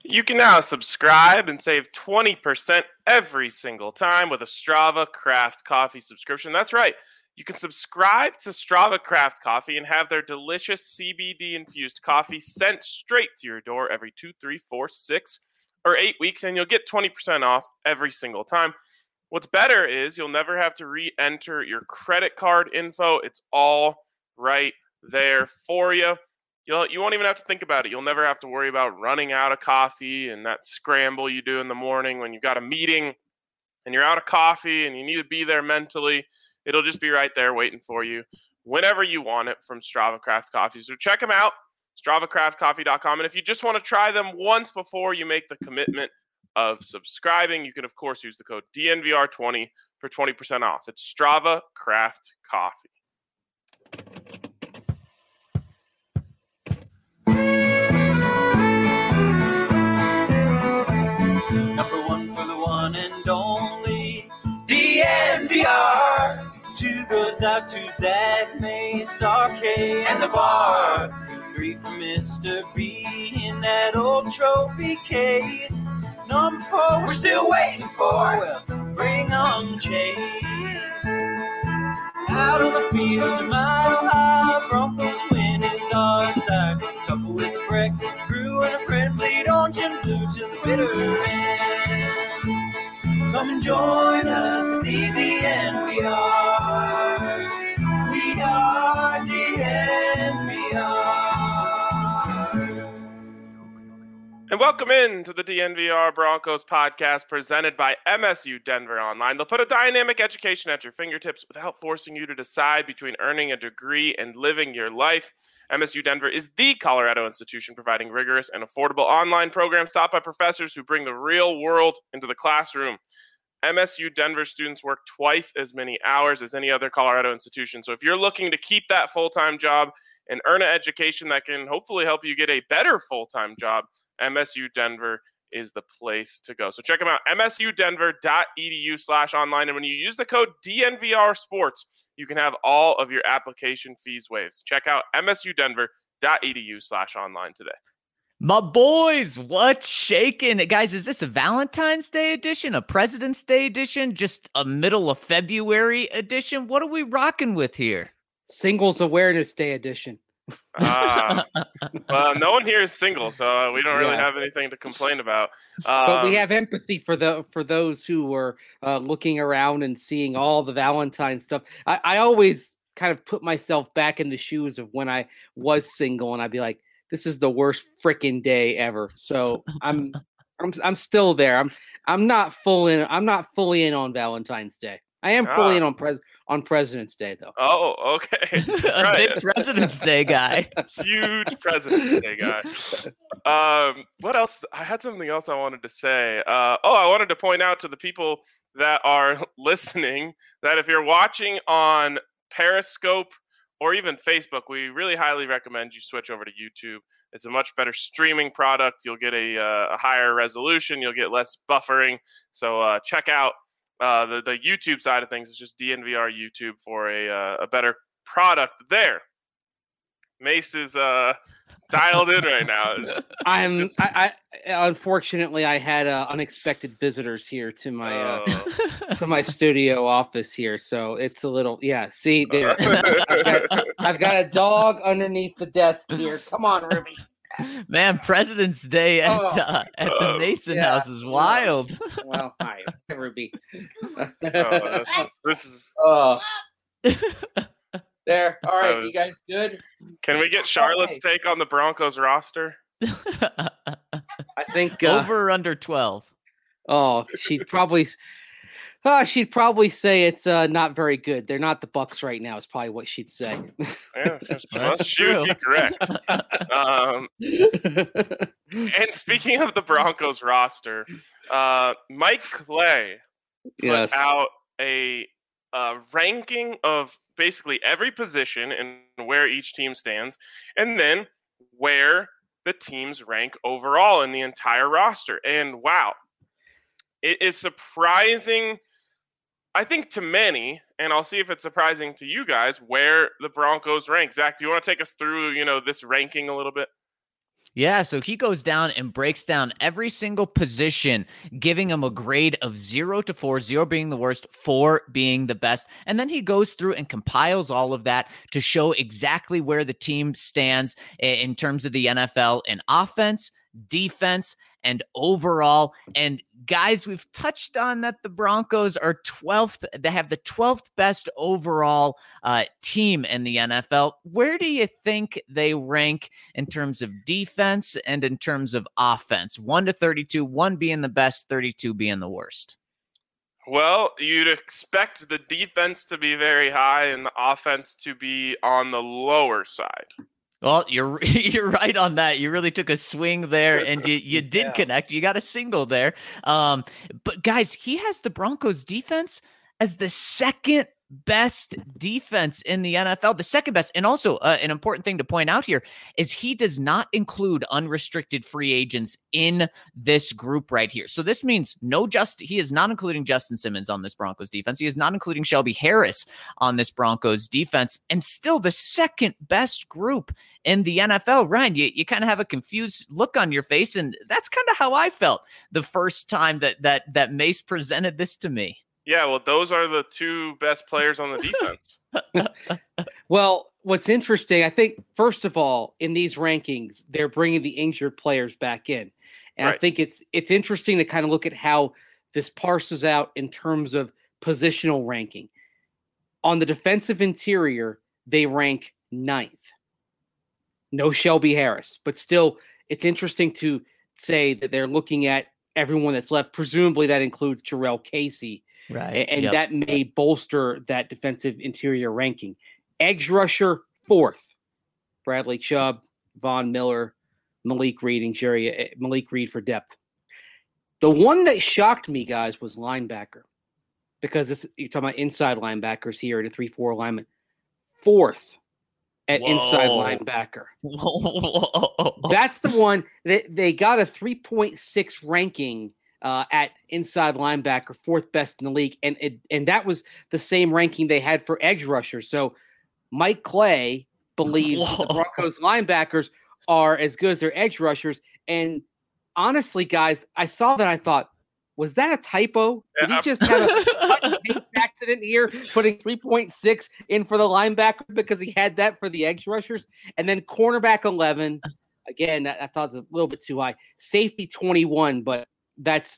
You can now subscribe and save 20% every single time with a Strava Craft Coffee subscription. That's right. You can subscribe to Strava Craft Coffee and have their delicious CBD-infused coffee sent straight to your door every 2, 3, 4, 6, or 8 weeks, and you'll get 20% off every single time. What's better is you'll never have to re-enter your credit card info. It's all right there for you. You won't even have to think about it. You'll never have to worry about running out of coffee and that scramble you do in the morning when you've got a meeting and you're out of coffee and you need to be there mentally. It'll just be right there waiting for you whenever you want it from Strava Craft Coffee. So check them out, StravaCraftCoffee.com. And if you just want to try them once before you make the commitment of subscribing, you can, of course, use the code DNVR20 for 20% off. It's Strava Craft Coffee. Number one for the one and only DNVR. 2 goes out to Zach Mace, RK, and the bar. 3 for Mr. B in that old trophy case. Number 4 we're still waiting for. Well, bring on the chase. Out on the field, a mile high, Broncos win is our desire. Couple with a breakfast crew and a friend, bleed orange and blue to the bitter end. Come and join us at DNVR. We are DNVR. And welcome in to the DNVR Broncos podcast presented by MSU Denver Online. They'll put a dynamic education at your fingertips without forcing you to decide between earning a degree and living your life. MSU Denver is the Colorado institution providing rigorous and affordable online programs taught by professors who bring the real world into the classroom. MSU Denver students work twice as many hours as any other Colorado institution. So if you're looking to keep that full-time job and earn an education that can hopefully help you get a better full-time job, MSU Denver is the place to go. So check them out, msudenver.edu/online. And when you use the code DNVR Sports, you can have all of your application fees waived. Check out msudenver.edu/online today. My boys, what's shaking? Guys, is this a Valentine's Day edition, a President's Day edition, just a middle of February edition? What are we rocking with here? Singles Awareness Day edition. Well, no one here is single, so we don't really have anything to complain about. But we have empathy for those who were looking around and seeing all the Valentine stuff. I always kind of put myself back in the shoes of when I was single, and I'd be like, this is the worst freaking day ever. So I'm still there. I'm not fully in on Valentine's Day. I am fully in on President's Day, though. Oh, okay. Right. Big President's Day guy. Huge President's Day guy. What else? I had something else I wanted to say. I wanted to point out to the people that are listening that if you're watching on Periscope or even Facebook, we really highly recommend you switch over to YouTube. It's a much better streaming product. You'll get a higher resolution. You'll get less buffering. So check out the YouTube side of things. Is just DNVR YouTube for a better product there. Mace is dialed in right now. Unfortunately, I had unexpected visitors here to my to my studio office here, so it's a little See, there, I've got a dog underneath the desk here. Come on, Ruby. Man, President's Day at the Mason house is wild. Well, hi, Ruby. This is. There. All right, you guys good? Can we get Charlotte's take on the Broncos roster? I think over or under 12. Oh, she'd probably say it's not very good. They're not the Bucks right now. Is probably what she'd say. Yeah, she would be correct. And speaking of the Broncos roster, Mike Clay put out a ranking of basically every position and where each team stands, and then where the teams rank overall in the entire roster. And wow, it is surprising, I think, to many, and I'll see if it's surprising to you guys, where the Broncos rank. Zach, do you want to take us through, this ranking a little bit? Yeah, so he goes down and breaks down every single position, giving him a grade of 0 to 4, 0 being the worst, 4 being the best. And then he goes through and compiles all of that to show exactly where the team stands in terms of the NFL in offense, defense, and overall. And guys, we've touched on that the Broncos are 12th. They have the 12th best overall team in the NFL. Where do you think they rank in terms of defense and in terms of offense? 1 to 32, 1 being the best, 32 being the worst. Well, you'd expect the defense to be very high and the offense to be on the lower side. Well, you're right on that. You really took a swing there, and you did connect. You got a single there. But guys, he has the Broncos defense as the second best defense in the NFL, the second best. And also an important thing to point out here is he does not include unrestricted free agents in this group right here. So this means he is not including Justin Simmons on this Broncos defense. He is not including Shelby Harris on this Broncos defense, and still the second best group in the NFL. Ryan, you kind of have a confused look on your face, and that's kind of how I felt the first time that Mace presented this to me. Yeah, well, those are the two best players on the defense. Well, what's interesting, I think, first of all, in these rankings, they're bringing the injured players back in. And right. I think it's interesting to kind of look at how this parses out in terms of positional ranking. On the defensive interior, they rank 9th. No Shelby Harris, but still, it's interesting to say that they're looking at everyone that's left. Presumably that includes Jarrell Casey. Right. And that may bolster that defensive interior ranking. Edge rusher, 4th. Bradley Chubb, Von Miller, Malik Reed for depth. The one that shocked me, guys, was linebacker. Because you're talking about inside linebackers here at a 3-4 alignment. 4th at inside linebacker. That's the one that they got a 3.6 ranking at inside linebacker, 4th best in the league. And that was the same ranking they had for edge rushers. So Mike Clay believes the Broncos linebackers are as good as their edge rushers. And honestly, guys, I saw that. I thought, was that a typo? Did he just have an accident here, putting 3.6 in for the linebacker because he had that for the edge rushers? And then cornerback 11. Again, I thought it was a little bit too high. Safety 21, but that's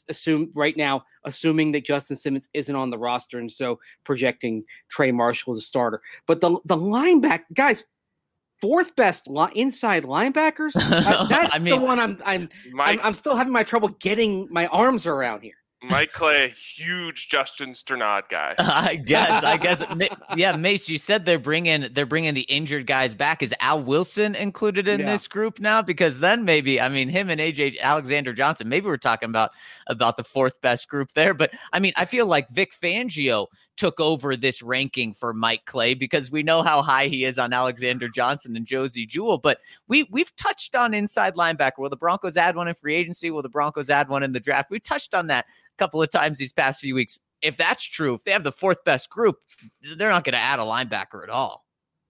assuming that Justin Simmons isn't on the roster, and so projecting Trey Marshall as a starter. But the linebacker guys, 4th best inside linebackers. That's the one I'm still having my trouble getting my arms around here. Mike Clay, huge Justin Sternad guy. I guess. Yeah, Mace, you said they're bringing the injured guys back. Is Al Wilson included in this group now? Because then maybe, I mean, him and Alexander Johnson, maybe we're talking about the 4th best group there. But I mean, I feel like Vic Fangio took over this ranking for Mike Clay because we know how high he is on Alexander Johnson and Josie Jewell. But we've touched on inside linebacker. Will the Broncos add one in free agency? Will the Broncos add one in the draft? We touched on that a couple of times these past few weeks. If that's true, if they have the 4th best group, they're not going to add a linebacker at all.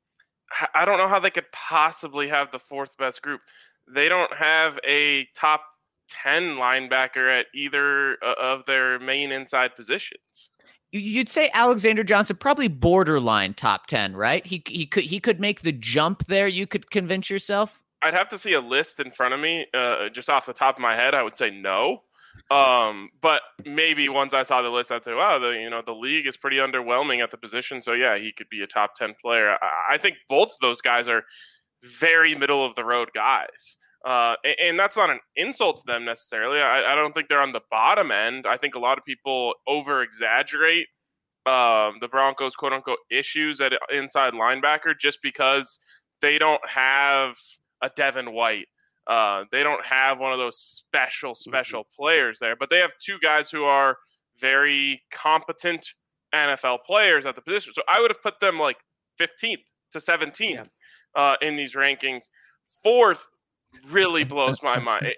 I don't know how they could possibly have the 4th best group. They don't have a top 10 linebacker at either of their main inside positions. You'd say Alexander Johnson, probably borderline top 10, right? He could make the jump there. You could convince yourself. I'd have to see a list in front of me. Just off the top of my head, I would say no. But maybe once I saw the list, I'd say, wow, the league is pretty underwhelming at the position. So yeah, he could be a top 10 player. I think both of those guys are very middle of the road guys. And that's not an insult to them necessarily. I don't think they're on the bottom end. I think a lot of people over exaggerate the Broncos quote unquote issues at inside linebacker just because they don't have a Devin White. They don't have one of those special players there, but they have 2 guys who are very competent NFL players at the position. So I would have put them like 15th to 17th in these rankings. 4th really blows my mind.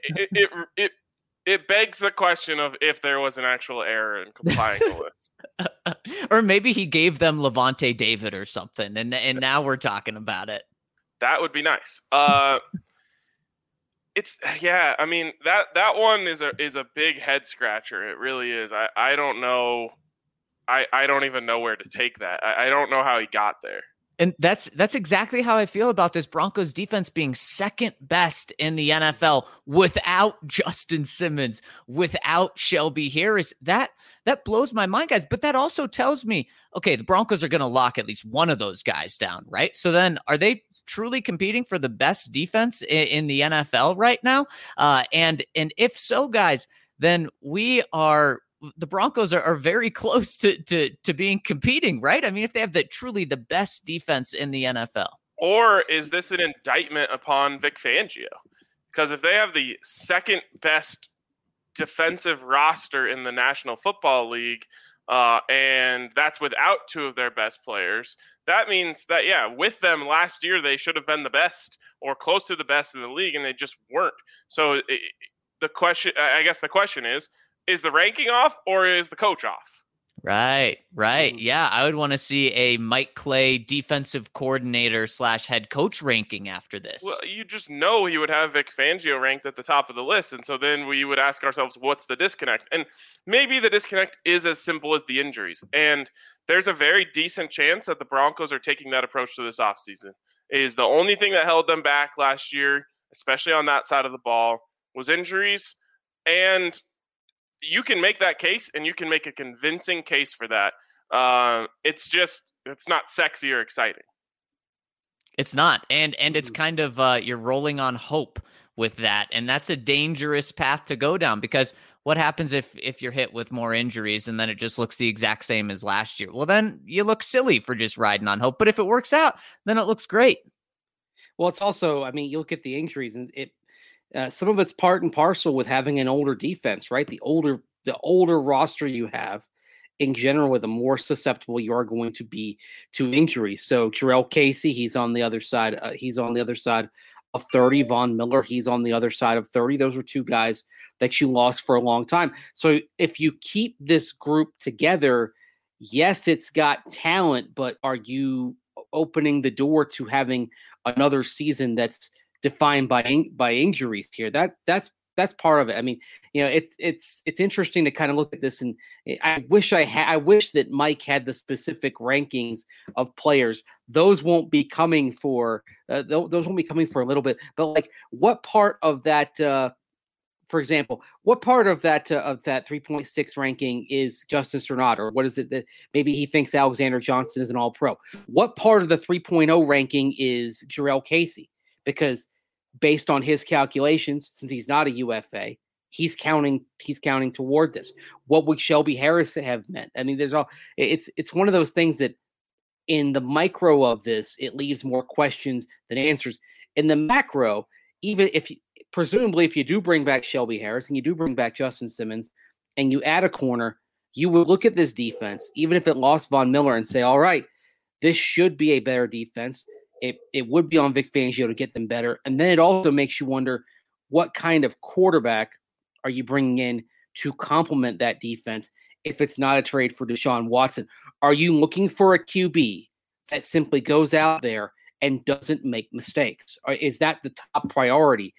It begs the question of if there was an actual error in compiling the list. Or maybe he gave them Levante David or something, and now we're talking about it. That would be nice. yeah. I mean that one is a big head scratcher. It really is. I don't know. I don't even know where to take that. I don't know how he got there. And that's exactly how I feel about this Broncos defense being second best in the NFL without Justin Simmons, without Shelby Harris. That blows my mind, guys. But that also tells me, okay, the Broncos are going to lock at least one of those guys down, right? So then are they truly competing for the best defense in the NFL right now? And if so, guys, then the Broncos are very close to being competing, right? I mean, if they have truly the best defense in the NFL. Or is this an indictment upon Vic Fangio? Because if they have the second best defensive roster in the National Football League, and that's without two of their best players, that means that, yeah, with them last year, they should have been the best or close to the best in the league, and they just weren't. So the question is the ranking off or is the coach off? Right. Yeah, I would want to see a Mike Clay defensive coordinator / head coach ranking after this. Well, you just know he would have Vic Fangio ranked at the top of the list, and so then we would ask ourselves, what's the disconnect? And maybe the disconnect is as simple as the injuries, and there's a very decent chance that the Broncos are taking that approach to this offseason. Is the only thing that held them back last year, especially on that side of the ball, was injuries, and you can make that case, and you can make a convincing case for that. It's not sexy or exciting. It's not, and it's kind of you're rolling on hope with that, and that's a dangerous path to go down, because what happens if you're hit with more injuries and then it just looks the exact same as last year? Well, then you look silly for just riding on hope. But if it works out, then it looks great. Well, it's also, I mean, you look at the injuries, and some of it's part and parcel with having an older defense, right? The older roster you have, in general, the more susceptible you are going to be to injuries. So Jurrell Casey, he's on the other side. He's on the other side of 30. Von Miller, he's on the other side of 30. Those were two guys that you lost for a long time. So if you keep this group together, yes, it's got talent, but are you opening the door to having another season that's defined by injuries here? That's part of it. I mean, you know, it's interesting to kind of look at this, and I wish that Mike had the specific rankings of players. Those won't be coming for a little bit. But like, what part of that? For example, what part of that 3.6 ranking is Justin Strnad, or what is it that maybe he thinks Alexander Johnson is an All-Pro? What part of the 3.0 ranking is Jurrell Casey? Because based on his calculations, since he's not a UFA, he's counting toward this. What would Shelby Harris have meant? I mean, it's one of those things that in the micro of this, it leaves more questions than answers. In the macro, even if presumably if you do bring back Shelby Harris and you do bring back Justin Simmons and you add a corner, you would look at this defense, even if it lost Von Miller, and say, all right, this should be a better defense. It would be on Vic Fangio to get them better. And then it also makes you wonder, what kind of quarterback are you bringing in to complement that defense if it's not a trade for Deshaun Watson? Are you looking for a QB that simply goes out there and doesn't make mistakes? Or is that the top priority?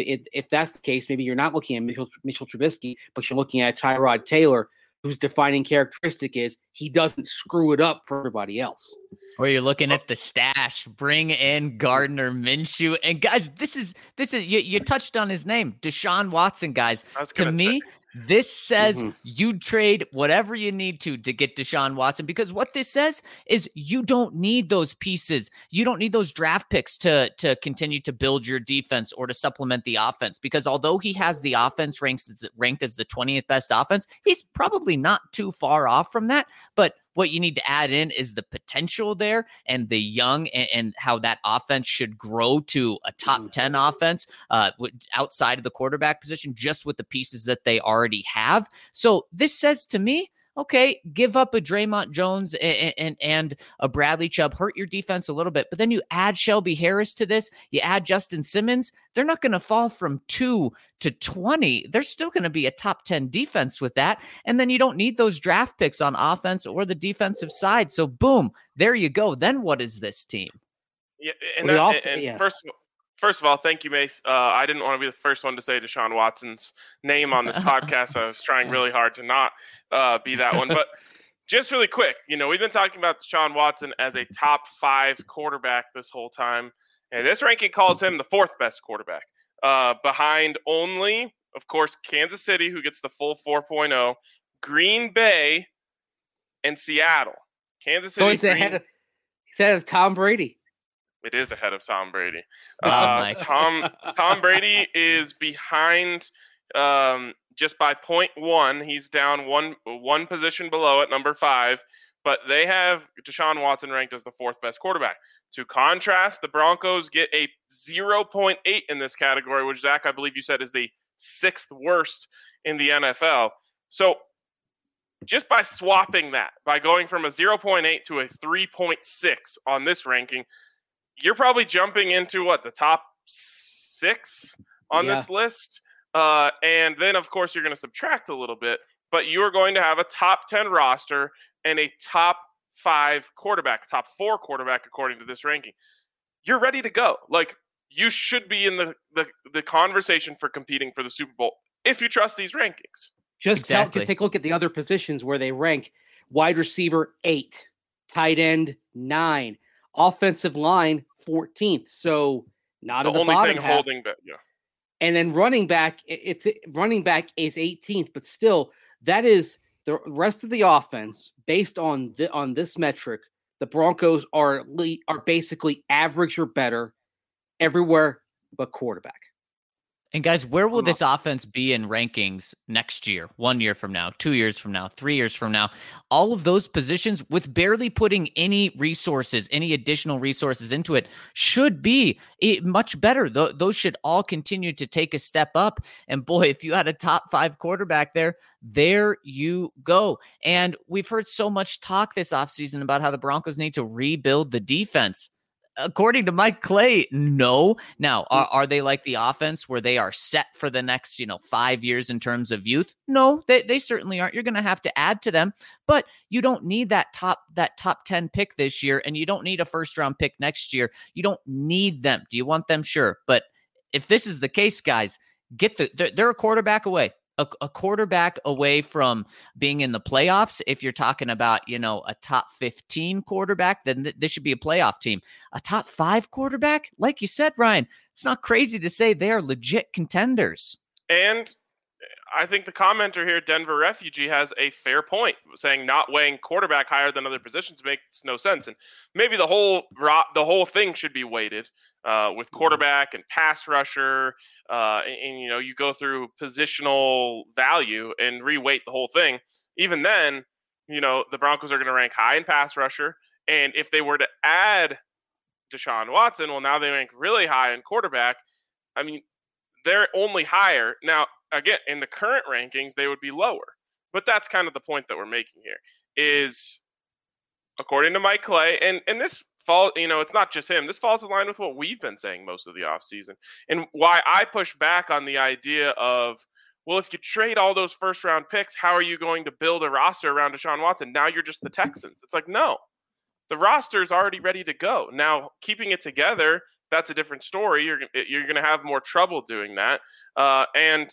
If that's the case, maybe you're not looking at Mitchell Trubisky, but you're looking at Tyrod Taylor, whose defining characteristic is he doesn't screw it up for everybody else. Or you're looking at the stash, bring in Gardner Minshew. And guys, this is you touched on his name, Deshaun Watson, guys. To me, this says you trade whatever you need to get Deshaun Watson, because what this says is you don't need those pieces. You don't need those draft picks to continue to build your defense or to supplement the offense, because although he has the offense ranked as the 20th best offense, he's probably not too far off from that. But what you need to add in is the potential there and the young and how that offense should grow to a top 10 offense outside of the quarterback position, just with the pieces that they already have. So this says to me, okay, give up a Draymond Jones and a Bradley Chubb, hurt your defense a little bit, but then you add Shelby Harris to this, you add Justin Simmons, they're not going to fall from 2 to 20. They're still going to be a top 10 defense with that. And then you don't need those draft picks on offense or the defensive side. So boom, there you go. Then what is this team? Yeah, First of all, thank you, Mace. I didn't want to be the first one to say Deshaun Watson's name on this podcast. I was trying really hard to not be that one. But just really quick, we've been talking about Deshaun Watson as a top 5 quarterback this whole time. And this ranking calls him the 4th best quarterback, behind only, of course, Kansas City, who gets the full 4.0, Green Bay, and Seattle. Kansas City. So he's ahead of Tom Brady. It is ahead of Tom Brady. Tom Brady is behind just by 0.1. He's down one position below at number 5, but they have Deshaun Watson ranked as the 4th best quarterback. To contrast, the Broncos get a 0.8 in this category, which, Zach, I believe you said is the 6th worst in the NFL. So just by swapping that, by going from a 0.8 to a 3.6 on this ranking, you're probably jumping into the top 6 on this list. And then, of course, you're going to subtract a little bit, but you're going to have a top 10 roster and a top 5 quarterback, top 4 quarterback, according to this ranking. You're ready to go. Like, you should be in the conversation for competing for the Super Bowl if you trust these rankings. Just take a look at the other positions where they rank. Wide receiver 8, tight end 9, offensive line 14th. So not the at the only bottom thing half. holding back. Yeah. And then running back is 18th, but still that is the rest of the offense based on this metric. The Broncos are basically average or better everywhere but quarterback. And guys, where will this offense be in rankings next year, 1 year from now, 2 years from now, 3 years from now? All of those positions with barely putting any additional resources into it should be much better. Those should all continue to take a step up. And boy, if you had a top 5 quarterback there you go. And we've heard so much talk this offseason about how the Broncos need to rebuild the defense. According to Mike Clay, no. Now, are they like the offense where they are set for the next, 5 years in terms of youth? No, they certainly aren't. You're going to have to add to them, but you don't need that top 10 pick this year, and you don't need a first round pick next year. You don't need them. Do you want them? Sure. But if this is the case, guys, they're a quarterback away. A quarterback away from being in the playoffs. If you're talking about, a top 15 quarterback, then this should be a playoff team. A top 5 quarterback, like you said, Ryan, it's not crazy to say they are legit contenders. And I think the commenter here, Denver Refugee, has a fair point, saying not weighing quarterback higher than other positions makes no sense. And maybe the whole thing should be weighted with quarterback and pass rusher. And you go through positional value and reweight the whole thing. Even then, the Broncos are going to rank high in pass rusher. And if they were to add Deshaun Watson, well, now they rank really high in quarterback. I mean, they're only higher. Now, again, in the current rankings, they would be lower. But that's kind of the point that we're making here is, according to Mike Clay, and this fall, it's not just him. This falls in line with what we've been saying most of the offseason. And why I push back on the idea of, well, if you trade all those first-round picks, how are you going to build a roster around Deshaun Watson? Now you're just the Texans. It's like, no. The roster is already ready to go. Now, keeping it together, that's a different story. You're going to have more trouble doing that. And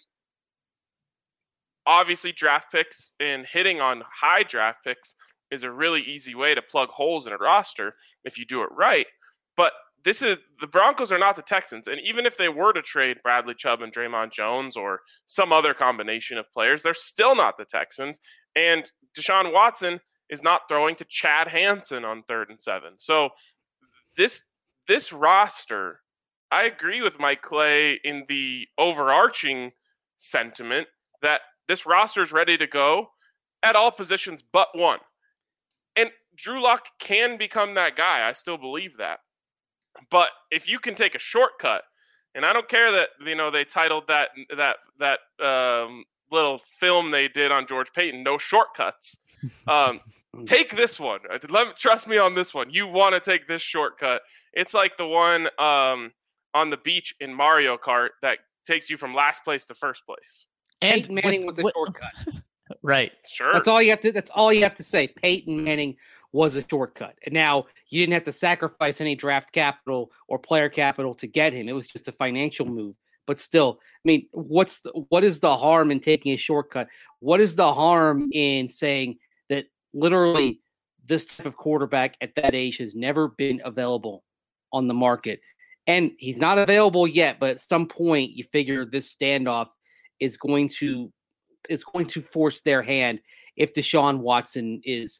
obviously, draft picks and hitting on high draft picks is a really easy way to plug holes in a roster if you do it right. But the Broncos are not the Texans. And even if they were to trade Bradley Chubb and Draymond Jones or some other combination of players, they're still not the Texans. And Deshaun Watson is not throwing to Chad Hansen on 3rd and 7. So this roster, I agree with Mike Clay in the overarching sentiment that this roster is ready to go at all positions but one. And Drew Lock can become that guy. I still believe that. But if you can take a shortcut, and I don't care that they titled that little film they did on George Payton, "No Shortcuts." Take this one. Trust me on this one. You want to take this shortcut. It's like the one on the beach in Mario Kart that takes you from last place to first place. And Peyton Manning was a shortcut. Right. Sure. That's all you have to say. Peyton Manning was a shortcut. And now you didn't have to sacrifice any draft capital or player capital to get him. It was just a financial move. But still, I mean, what is the harm in taking a shortcut? What is the harm in saying that literally this type of quarterback at that age has never been available on the market? And he's not available yet, but at some point you figure this standoff is going to force their hand if Deshaun Watson is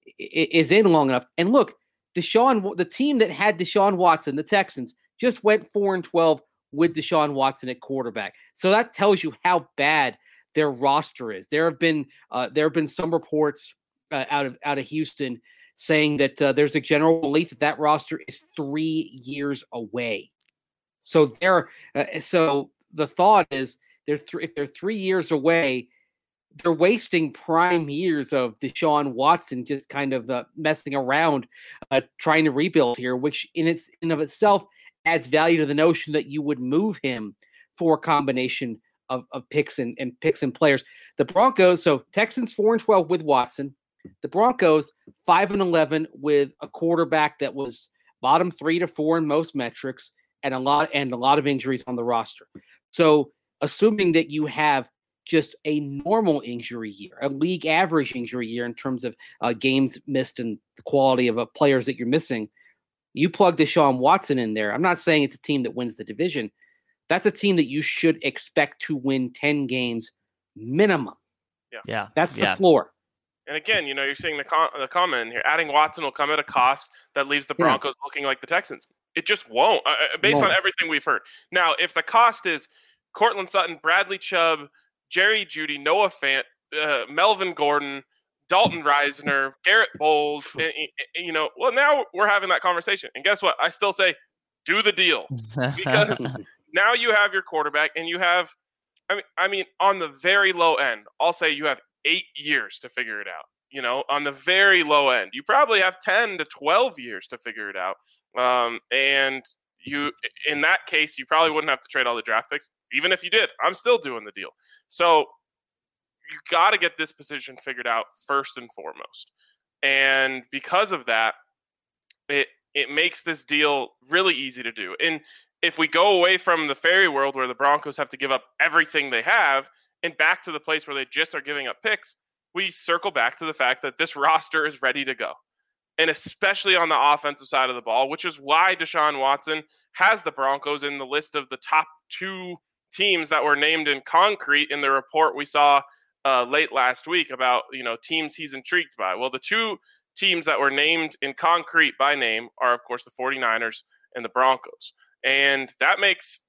in long enough. And look, the team that had Deshaun Watson, the Texans, just went 4-12 with Deshaun Watson at quarterback. So that tells you how bad their roster is. There have been some reports out of Houston saying that there's a general belief that roster is 3 years away. So so the thought is if they're 3 years away, they're wasting prime years of Deshaun Watson just kind of messing around, trying to rebuild here, which in of itself adds value to the notion that you would move him for a combination of picks and picks and players. The Broncos, so Texans 4-12 with Watson. The Broncos 5-11 with a quarterback that was bottom 3 to 4 in most metrics and a lot of injuries on the roster. So assuming that you have just a normal injury year, a league average injury year in terms of games missed and the quality of players that you're missing, you plug Deshaun Watson in there. I'm not saying it's a team that wins the division. That's a team that you should expect to win 10 games minimum. Yeah. That's the floor. And again, you're seeing the comment here. Adding Watson will come at a cost that leaves the Broncos looking like the Texans. It just won't, based on everything we've heard. Now, if the cost is Cortland Sutton, Bradley Chubb, Jerry Jeudy, Noah Fant, Melvin Gordon, Dalton Reisner, Garrett Bowles, well, now we're having that conversation. And guess what? I still say, do the deal. Because now you have your quarterback and you have, I mean, on the very low end, I'll say you have 8 years to figure it out. On the very low end, you probably have 10 to 12 years to figure it out. And in that case, you probably wouldn't have to trade all the draft picks. Even if you did, I'm still doing the deal. So you got to get this position figured out first and foremost. And because of that, it makes this deal really easy to do. And if we go away from the fairy world where the Broncos have to give up everything they have and back to the place where they just are giving up picks, we circle back to the fact that this roster is ready to go. And especially on the offensive side of the ball, which is why Deshaun Watson has the Broncos in the list of the top 2 teams that were named in concrete in the report we saw late last week about, teams he's intrigued by. Well, the 2 teams that were named in concrete by name are, of course, the 49ers and the Broncos. And that makes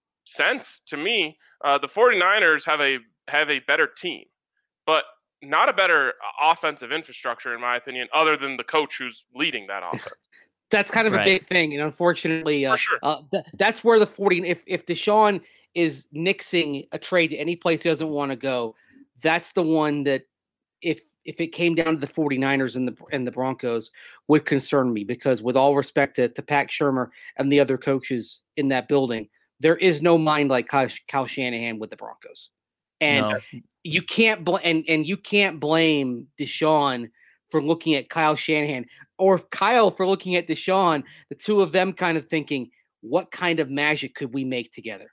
sense to me. The 49ers have a better team, but not a better offensive infrastructure, in my opinion, other than the coach who's leading that offense. That's kind of a big thing. And unfortunately, For sure. That's where the 40, if Deshaun is nixing a trade to any place he doesn't want to go, that's the one that if it came down to the 49ers and the Broncos would concern me, because with all respect to Pat Shurmur and the other coaches in that building, there is no mind like Kyle Shanahan with the Broncos. And you can't you can't blame Deshaun for looking at Kyle Shanahan or Kyle for looking at Deshaun, the two of them kind of thinking, what kind of magic could we make together?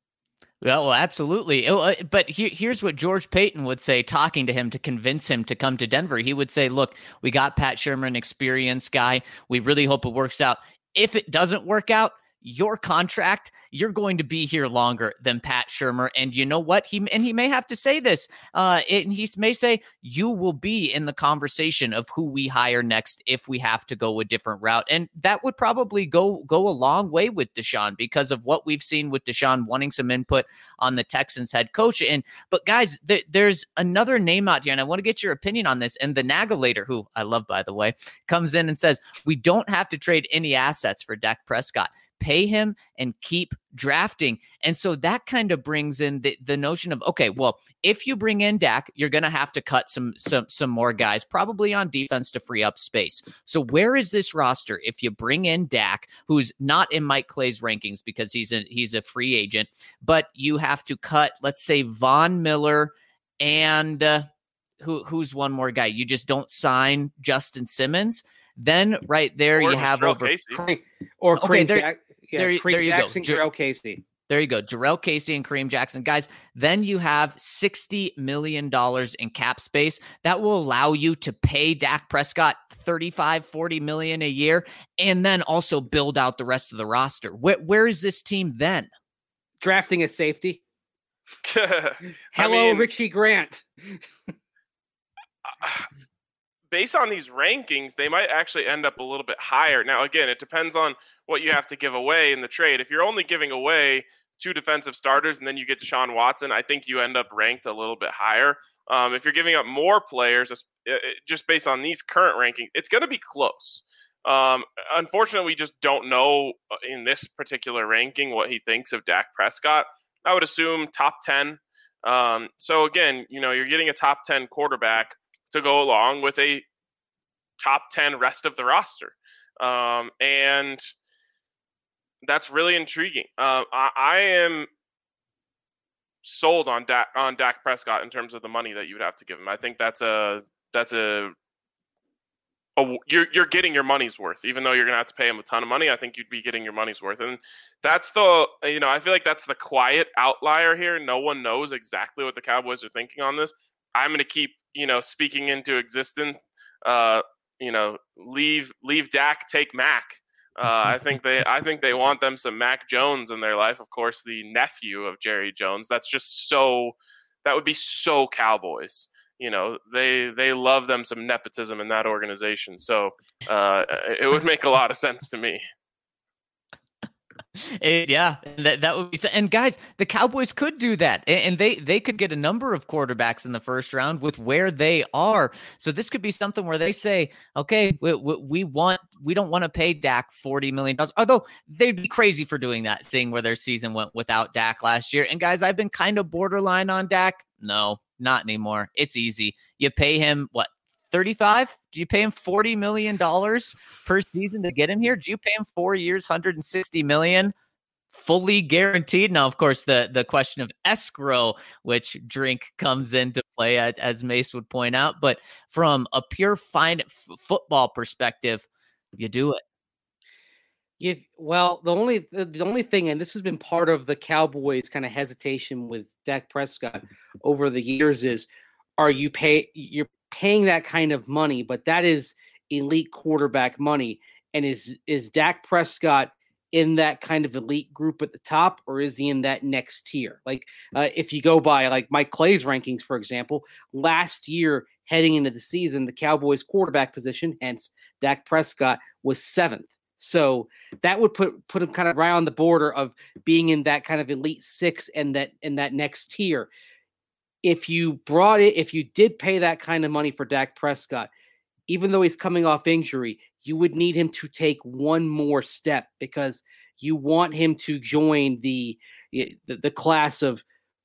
Well, absolutely. But here's what George Payton would say, talking to him to convince him to come to Denver. He would say, look, we got Pat Shurmur, an experienced guy. We really hope it works out. If it doesn't work out, your contract, you're going to be here longer than Pat Shurmur. And you know what? He may have to say this. He may say, you will be in the conversation of who we hire next if we have to go a different route. And that would probably go a long way with Deshaun, because of what we've seen with Deshaun wanting some input on the Texans head coach. But guys, there's another name out here, and I want to get your opinion on this. And the Nagelator, who I love, by the way, comes in and says, we don't have to trade any assets for Dak Prescott. Pay him and keep drafting. And so that kind of brings in the notion of, okay, well, if you bring in Dak, you're going to have to cut some more guys, probably on defense, to free up space. So where is this roster if you bring in Dak, who's not in Mike Clay's rankings because he's a free agent, but you have to cut, let's say, Von Miller and who's one more guy? You just don't sign Justin Simmons. Then right there Or you have Jarrell over Casey. Kareem there you Jackson, go. Jarrell Casey. There you go. Jarrell Casey and Kareem Jackson. Guys, then you have $60 million in cap space. That will allow you to pay Dak Prescott $35-40 million a year and then also build out the rest of the roster. Where is this team then? Drafting a safety. I mean, Richie Grant. Based on these rankings, they might actually end up a little bit higher. Now, again, it depends on what you have to give away in the trade. If you're only giving away 2 defensive starters and then you get Deshaun Watson, I think you end up ranked a little bit higher. If you're giving up more players, just based on these current rankings, it's going to be close. Unfortunately, we just don't know in this particular ranking what he thinks of Dak Prescott. I would assume top 10. So again, you're getting a top 10 quarterback to go along with a top 10 rest of the roster. And that's really intriguing. I am sold on Dak Prescott in terms of the money that you would have to give him. I think you're getting your money's worth, even though you're going to have to pay him a ton of money. I think you'd be getting your money's worth. And that's I feel like that's the quiet outlier here. No one knows exactly what the Cowboys are thinking on this. I'm going to keep, speaking into existence, leave Dak, take Mac. I think they want them some Mac Jones in their life. Of course, the nephew of Jerry Jones. That would be so Cowboys. They love them some nepotism in that organization. So it would make a lot of sense to me. That would be. And guys, the Cowboys could do that, and they could get a number of quarterbacks in the first round with where they are. So this could be something where they say, okay, we don't want to pay Dak $40 million. Although they'd be crazy for doing that, seeing where their season went without Dak last year. And guys, I've been kind of borderline on Dak. No, not anymore. It's easy. You pay him what? 35? Do you pay him $40 million per season to get him here? Do you pay him 4 years, $160 million, fully guaranteed? Now, of course, the question of escrow, which drink comes into play, as Mace would point out. But from a pure football perspective, you do it. Well, the only thing, and this has been part of the Cowboys' kind of hesitation with Dak Prescott over the years, is you're paying that kind of money, but that is elite quarterback money. And is Dak Prescott in that kind of elite group at the top, or is he in that next tier? Like if you go by like Mike Clay's rankings, for example, last year heading into the season, the Cowboys quarterback position, hence Dak Prescott, was 7th. So that would put him kind of right on the border of being in that kind of elite 6 and that next tier. If you did pay that kind of money for Dak Prescott, even though he's coming off injury, you would need him to take one more step, because you want him to join the class of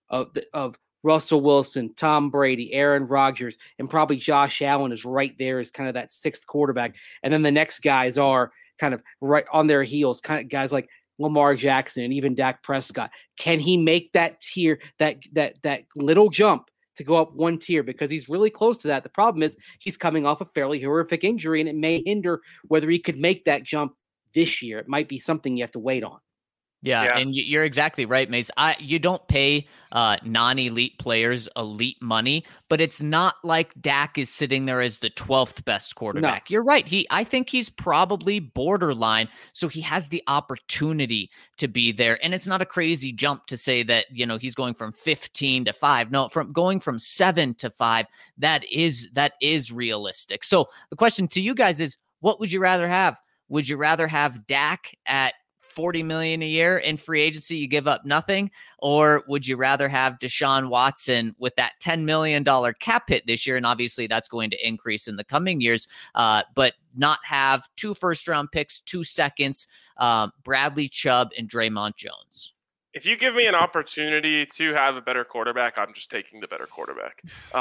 Russell Wilson, Tom Brady, Aaron Rodgers, and probably Josh Allen is right there as kind of that 6th quarterback. And then the next guys are kind of right on their heels, kind of guys like Lamar Jackson and even Dak Prescott. Can he make that tier, that little jump to go up one tier? Because he's really close to that. The problem is he's coming off a fairly horrific injury, and it may hinder whether he could make that jump this year. It might be something you have to wait on. Yeah, and you're exactly right, Mace. You don't pay non-elite players elite money, but it's not like Dak is sitting there as the 12th best quarterback. No. You're right. I think he's probably borderline, so he has the opportunity to be there. And it's not a crazy jump to say that, he's going from 15 to 5. No, from going from 7 to 5, that is realistic. So the question to you guys is, what would you rather have? Would you rather have Dak at $40 million a year in free agency, you give up nothing? Or would you rather have Deshaun Watson with that $10 million cap hit this year? And obviously that's going to increase in the coming years, but not have 2 first-round picks, 2 seconds, Bradley Chubb and Draymond Jones? If you give me an opportunity to have a better quarterback, I'm just taking the better quarterback.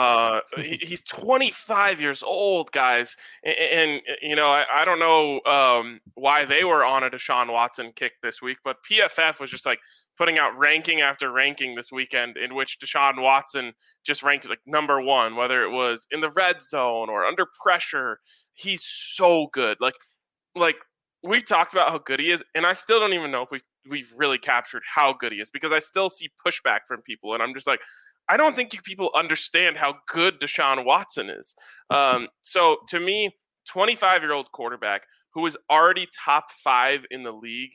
He's 25 years old, guys. And I don't know why they were on a Deshaun Watson kick this week, but PFF was just like, putting out ranking after ranking this weekend in which Deshaun Watson just ranked like number one, whether it was in the red zone or under pressure. He's so good. Like we've talked about how good he is, and I still don't even know if we've really captured how good he is, because I still see pushback from people, and I'm just like, I don't think you people understand how good Deshaun Watson is. So to me, 25-year-old quarterback who is already top 5 in the league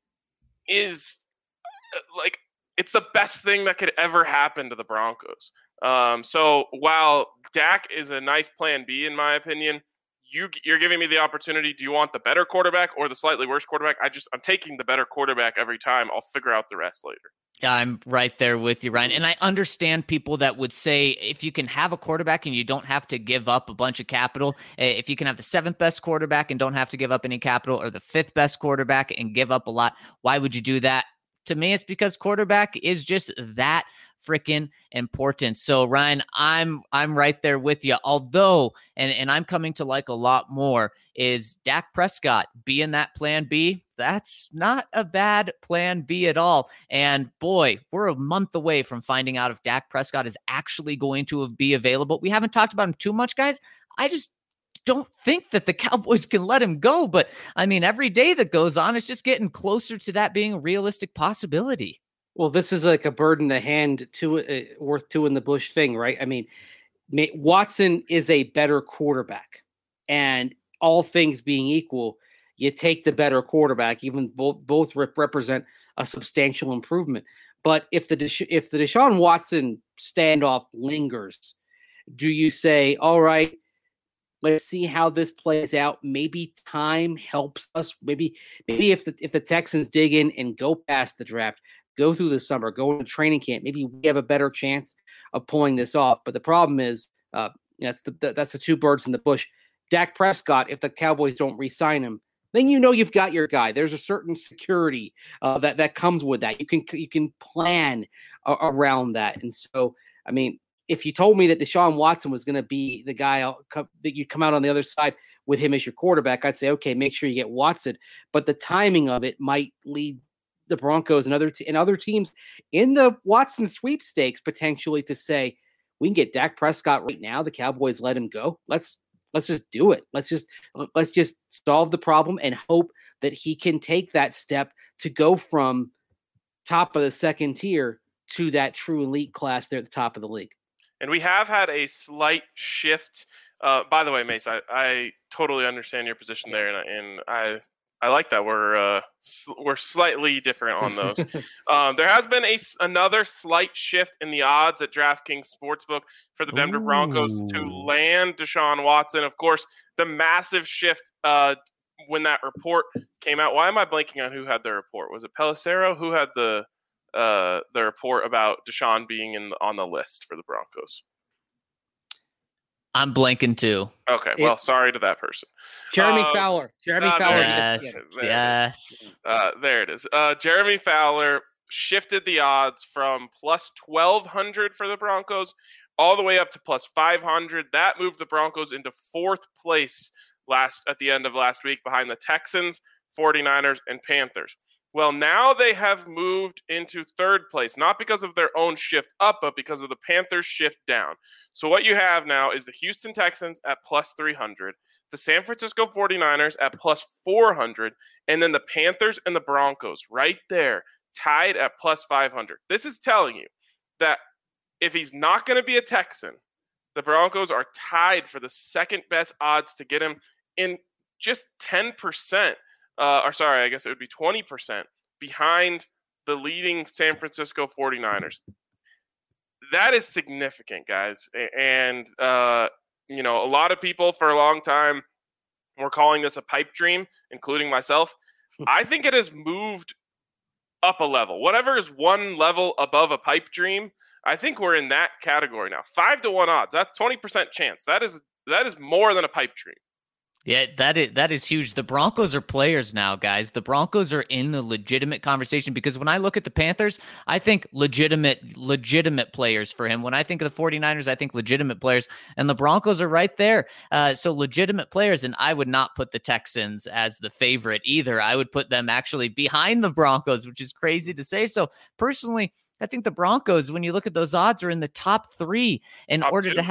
is like, it's the best thing that could ever happen to the Broncos. So while Dak is a nice plan B, in my opinion, you're giving me the opportunity. Do you want the better quarterback or the slightly worse quarterback? I'm taking the better quarterback every time. I'll figure out the rest later. Yeah, I'm right there with you, Ryan. And I understand people that would say if you can have a quarterback and you don't have to give up a bunch of capital, if you can have the 7th best quarterback and don't have to give up any capital, or the 5th best quarterback and give up a lot, why would you do that? To me, it's because quarterback is just that freaking important. So Ryan, I'm right there with you. Although, and I'm coming to like a lot more, is Dak Prescott being that plan B. That's not a bad plan B at all. And boy, we're a month away from finding out if Dak Prescott is actually going to be available. We haven't talked about him too much, guys. I just don't think that the Cowboys can let him go. But I mean, every day that goes on, it's just getting closer to that being a realistic possibility. Well, this is like a bird in the hand, worth two in the bush thing, right? I mean, Watson is a better quarterback, and all things being equal, you take the better quarterback. Even both represent a substantial improvement. But if the Deshaun Watson standoff lingers, do you say, all right, let's see how this plays out? Maybe time helps us. Maybe if the Texans dig in and go past the draft, go through the summer, go into training camp, maybe we have a better chance of pulling this off. But the problem is, that's the two birds in the bush. Dak Prescott, if the Cowboys don't re-sign him, then you've got your guy. There's a certain security that comes with that. You can plan around that. And so, I mean, if you told me that Deshaun Watson was going to be the guy that you'd come out on the other side with him as your quarterback, I'd say, okay, make sure you get Watson. But the timing of it might lead the Broncos and other teams in the Watson sweepstakes potentially to say, we can get Dak Prescott right now. The Cowboys let him go. Let's just do it. Let's just solve the problem and hope that he can take that step to go from top of the second tier to that true elite class there at the top of the league. And we have had a slight shift. By the way, Mace, I totally understand your position there, and I like that we're slightly different on those. There has been another slight shift in the odds at DraftKings Sportsbook for the Denver Broncos to land Deshaun Watson. Of course, the massive shift when that report came out. Why am I blanking on who had the report? Was it Pelissero who had the report about Deshaun being on the list for the Broncos? I'm blanking too. Okay, well, sorry to that person. Jeremy Fowler. Jeremy Fowler. Yes. There it is. Jeremy Fowler shifted the odds from plus 1,200 for the Broncos all the way up to plus 500. That moved the Broncos into 4th place at the end of last week, behind the Texans, 49ers, and Panthers. Well, now they have moved into 3rd place, not because of their own shift up, but because of the Panthers' shift down. So what you have now is the Houston Texans at plus 300, the San Francisco 49ers at plus 400, and then the Panthers and the Broncos right there, tied at plus 500. This is telling you that if he's not going to be a Texan, the Broncos are tied for the second best odds to get him in just 10%. I guess it would be 20% behind the leading San Francisco 49ers. That is significant, guys. And, a lot of people for a long time were calling this a pipe dream, including myself. I think it has moved up a level. Whatever is one level above a pipe dream, I think we're in that category now. 5-1 odds. That's 20% chance. That is more than a pipe dream. Yeah, that is huge. The Broncos are players now, guys. The Broncos are in the legitimate conversation because when I look at the Panthers, I think legitimate players for him. When I think of the 49ers, I think legitimate players, and the Broncos are right there. So legitimate players, and I would not put the Texans as the favorite either. I would put them actually behind the Broncos, which is crazy to say. So personally, I think the Broncos, when you look at those odds, are in the top 3 in order to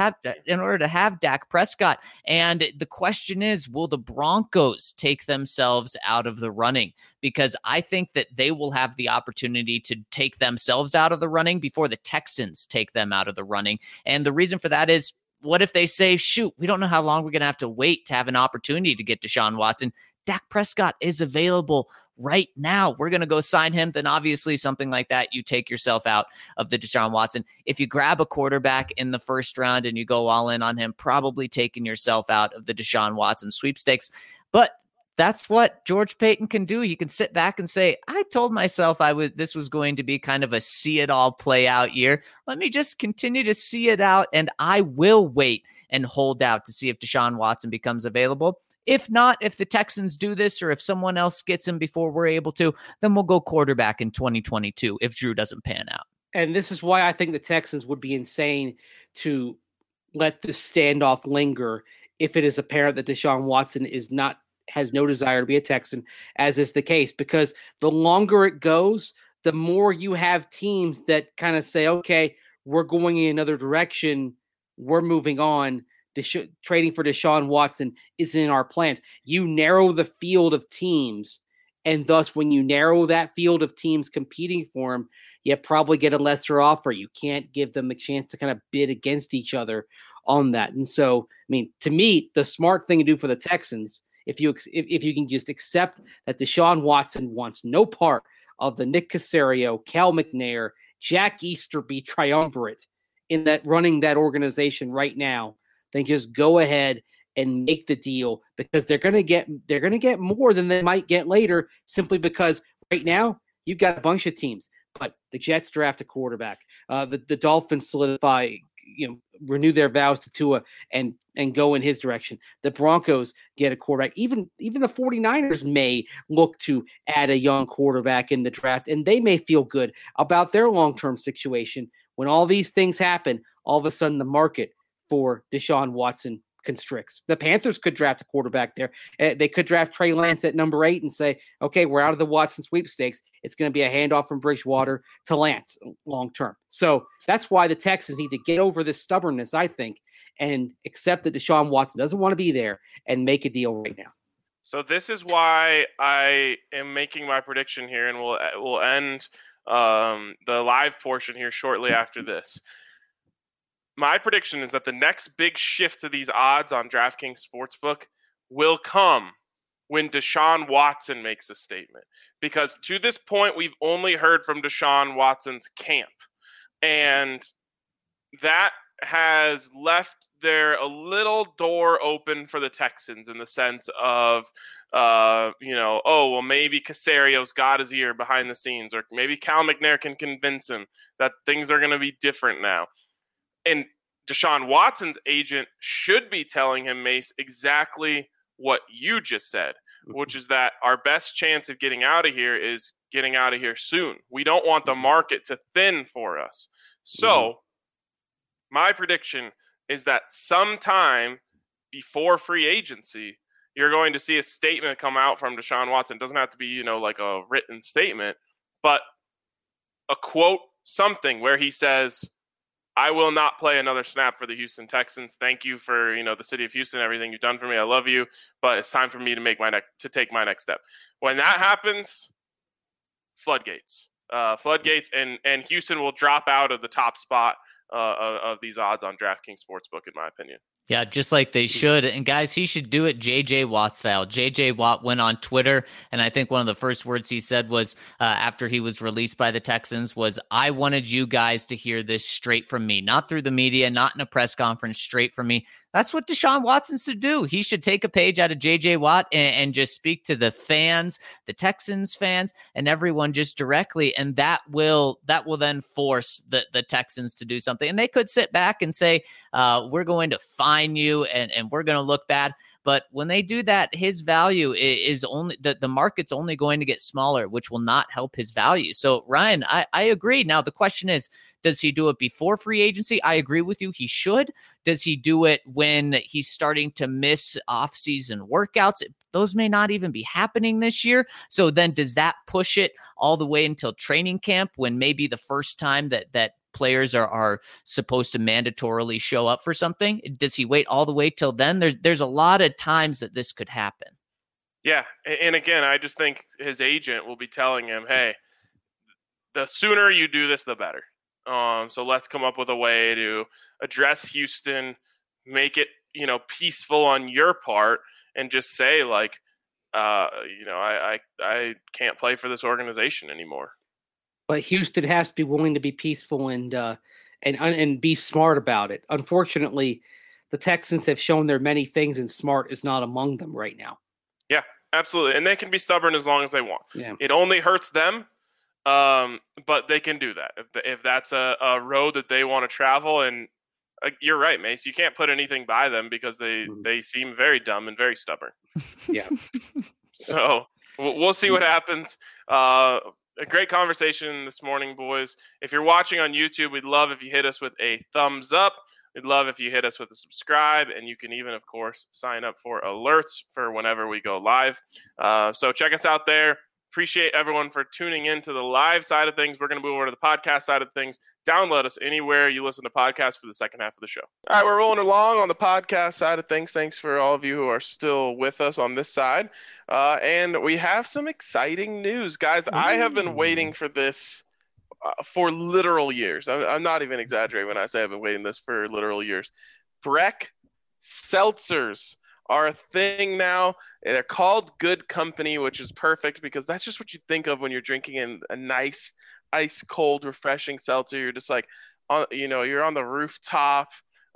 have Dak Prescott. And the question is, will the Broncos take themselves out of the running? Because I think that they will have the opportunity to take themselves out of the running before the Texans take them out of the running. And the reason for that is, what if they say, shoot, we don't know how long we're going to have to wait to have an opportunity to get Deshaun Watson. Dak Prescott is available right now. We're going to go sign him. Then obviously something like that, you take yourself out of the Deshaun Watson. If you grab a quarterback in the first round and you go all in on him, probably taking yourself out of the Deshaun Watson sweepstakes. But that's what George Paton can do. He can sit back and say, I told myself this was going to be kind of a see it all play out year. Let me just continue to see it out, and I will wait and hold out to see if Deshaun Watson becomes available. If not, if the Texans do this or if someone else gets him before we're able to, then we'll go quarterback in 2022 if Drew doesn't pan out. And this is why I think the Texans would be insane to let this standoff linger if it is apparent that Deshaun Watson has no desire to be a Texan, as is the case, because the longer it goes, the more you have teams that kind of say, okay, we're going in another direction, we're moving on. Trading for Deshaun Watson isn't in our plans. You narrow the field of teams, and thus when you narrow that field of teams competing for him, you probably get a lesser offer. You can't give them a chance to kind of bid against each other on that. And so, I mean, to me, the smart thing to do for the Texans, if you can just accept that Deshaun Watson wants no part of the Nick Caserio, Cal McNair, Jack Easterby triumvirate in that running that organization right now, then just go ahead and make the deal, because they're going to get more than they might get later, simply because right now you've got a bunch of teams. But the Jets draft a quarterback. The Dolphins solidify, renew their vows to Tua and go in his direction. The Broncos get a quarterback. Even the 49ers may look to add a young quarterback in the draft, and they may feel good about their long-term situation. When all these things happen, all of a sudden the market for Deshaun Watson constricts. The Panthers could draft a quarterback there. They could draft Trey Lance at number 8 and say, okay, we're out of the Watson sweepstakes. It's going to be a handoff from Bridgewater to Lance long term. So that's why the Texans need to get over this stubbornness, I think, and accept that Deshaun Watson doesn't want to be there and make a deal right now. So this is why I am making my prediction here, and we'll end the live portion here shortly after this. My prediction is that the next big shift to these odds on DraftKings Sportsbook will come when Deshaun Watson makes a statement. Because to this point, we've only heard from Deshaun Watson's camp. And that has left there a little door open for the Texans in the sense of, maybe Caserio's got his ear behind the scenes, or maybe Cal McNair can convince him that things are going to be different now. And Deshaun Watson's agent should be telling him, Mace, exactly what you just said, which is that our best chance of getting out of here is getting out of here soon. We don't want the market to thin for us. So my prediction is that sometime before free agency, you're going to see a statement come out from Deshaun Watson. It doesn't have to be, like a written statement, but a quote, something where he says, I will not play another snap for the Houston Texans. Thank you for, the city of Houston, everything you've done for me. I love you, but it's time for me to take my next step. When that happens, floodgates, and Houston will drop out of the top spot of these odds on DraftKings Sportsbook, in my opinion. Yeah, just like they should. And guys, he should do it J.J. Watt style. J.J. Watt went on Twitter, and I think one of the first words he said was, after he was released by the Texans, was, I wanted you guys to hear this straight from me, not through the media, not in a press conference, straight from me. That's what Deshaun Watson should do. He should take a page out of J.J. Watt and just speak to the fans, the Texans fans, and everyone just directly, and that will then force the Texans to do something. And they could sit back and say, we're going to fine you and we're going to look bad. But when they do that, his value is only the market's only going to get smaller, which will not help his value. So Ryan, I agree. Now the question is, does he do it before free agency? I agree with you. He should. Does he do it when he's starting to miss off-season workouts? Those may not even be happening this year. So then does that push it all the way until training camp, when maybe the first time that players are supposed to mandatorily show up for something? Does he wait all the way till then? There's a lot of times that this could happen. Yeah. And again, I just think his agent will be telling him, hey, the sooner you do this, the better. So let's come up with a way to address Houston, make it, peaceful on your part, and just say like, I can't play for this organization anymore. But Houston has to be willing to be peaceful and be smart about it. Unfortunately, the Texans have shown their many things, and smart is not among them right now. Yeah, absolutely. And they can be stubborn as long as they want. Yeah. It only hurts them, but they can do that. If that's a road that they want to travel, and you're right, Mace, you can't put anything by them because they seem very dumb and very stubborn. Yeah. So we'll see what happens. A great conversation this morning, boys. If you're watching on YouTube, we'd love if you hit us with a thumbs up. We'd love if you hit us with a subscribe, and you can even, of course, sign up for alerts for whenever we go live. So check us out there. Appreciate everyone for tuning in to the live side of things. We're going to move over to the podcast side of things. Download us anywhere you listen to podcasts for the second half of the show. All right, we're rolling along on the podcast side of things. Thanks for all of you who are still with us on this side. And we have some exciting news. Guys, I have been waiting for this for literal years. I'm not even exaggerating when I say I've been waiting this for literal years. Breck seltzers are a thing now. They're called Good Company, which is perfect because that's just what you think of when you're drinking a nice, ice cold, refreshing seltzer. You're just like, you're on the rooftop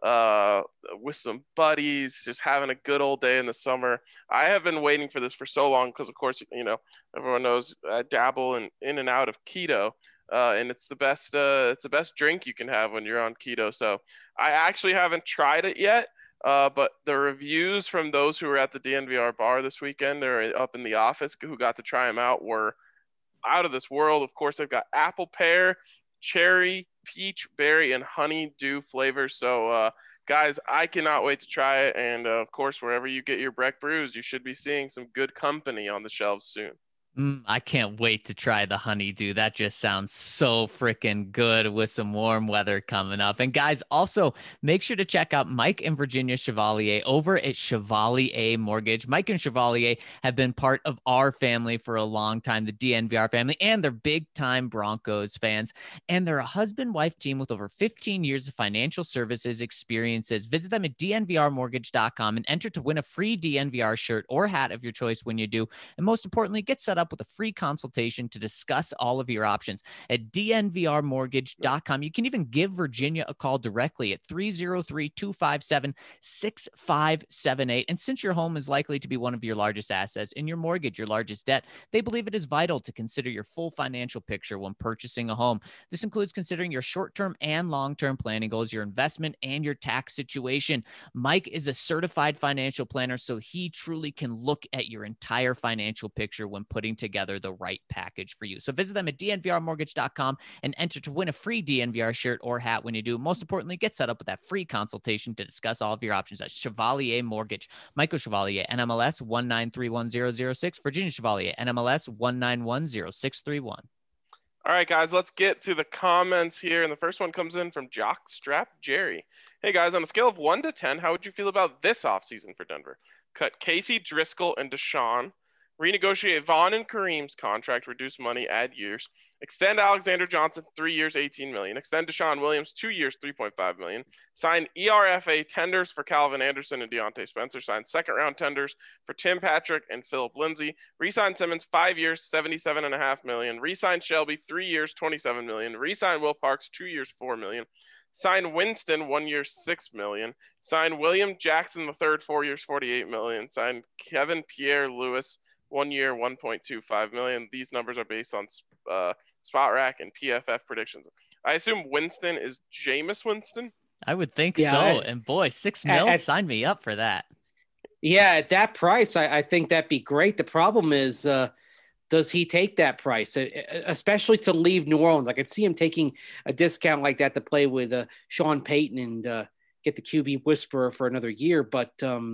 with some buddies, just having a good old day in the summer. I have been waiting for this for so long because, of course, everyone knows I dabble in and out of keto. And it's the best drink you can have when you're on keto. So I actually haven't tried it yet. But the reviews from those who were at the DNVR bar this weekend, they're up in the office, who got to try them out, were out of this world. Of course, they've got apple pear, cherry, peach, berry, and honeydew flavors. So, guys, I cannot wait to try it. And, of course, wherever you get your Breck brews, you should be seeing some Good Company on the shelves soon. I can't wait to try the honeydew. That just sounds so freaking good with some warm weather coming up. And guys, also make sure to check out Mike and Virginia Chevalier over at Chevalier Mortgage. Mike and Chevalier have been part of our family for a long time, the DNVR family, and they're big time Broncos fans. And they're a husband-wife team with over 15 years of financial services experiences. Visit them at dnvrmortgage.com and enter to win a free DNVR shirt or hat of your choice when you do. And most importantly, get set up with a free consultation to discuss all of your options at dnvrmortgage.com. You can even give Virginia a call directly at 303-257-6578. And since your home is likely to be one of your largest assets and your mortgage, your largest debt, they believe it is vital to consider your full financial picture when purchasing a home. This includes considering your short-term and long-term planning goals, your investment, and your tax situation. Mike is a certified financial planner, so he truly can look at your entire financial picture when putting together the right package for you. So visit them at dnvrmortgage.com and enter to win a free DNVR shirt or hat when you do. Most importantly, get set up with that free consultation to discuss all of your options at Chevalier Mortgage. Michael Chevalier, NMLS 1931006, Virginia Chevalier, NMLS 1910631. All right, guys, let's get to the comments here. And the first one comes in from Jockstrap Jerry. Hey, guys, on a scale of 1 to 10, how would you feel about this offseason for Denver? Cut Casey, Driscoll, and Deshaun. Renegotiate Vaughn and Kareem's contract, reduce money, add years. Extend Alexander Johnson 3 years, $18 million. Extend Deshaun Williams 2 years, $3.5 million. Sign ERFA tenders for Calvin Anderson and Deontay Spencer. Sign second-round tenders for Tim Patrick and Philip Lindsay. Resign Simmons 5 years, $77.5 million. Resign Shelby 3 years, $27 million. Resign Will Parks 2 years, $4 million. Sign Winston 1 year, $6 million. Sign William Jackson III 4 years, $48 million. Sign Kevin Pierre Lewis 1 year, $1.25 million. These numbers are based on Spot Rack and PFF predictions. I assume Winston is Jameis Winston. I would think so. And boy, $6 million, sign me up for that. Yeah, at that price, I think that'd be great. The problem is, does he take that price, especially to leave New Orleans? I could see him taking a discount like that to play with Sean Payton and get the QB whisperer for another year. But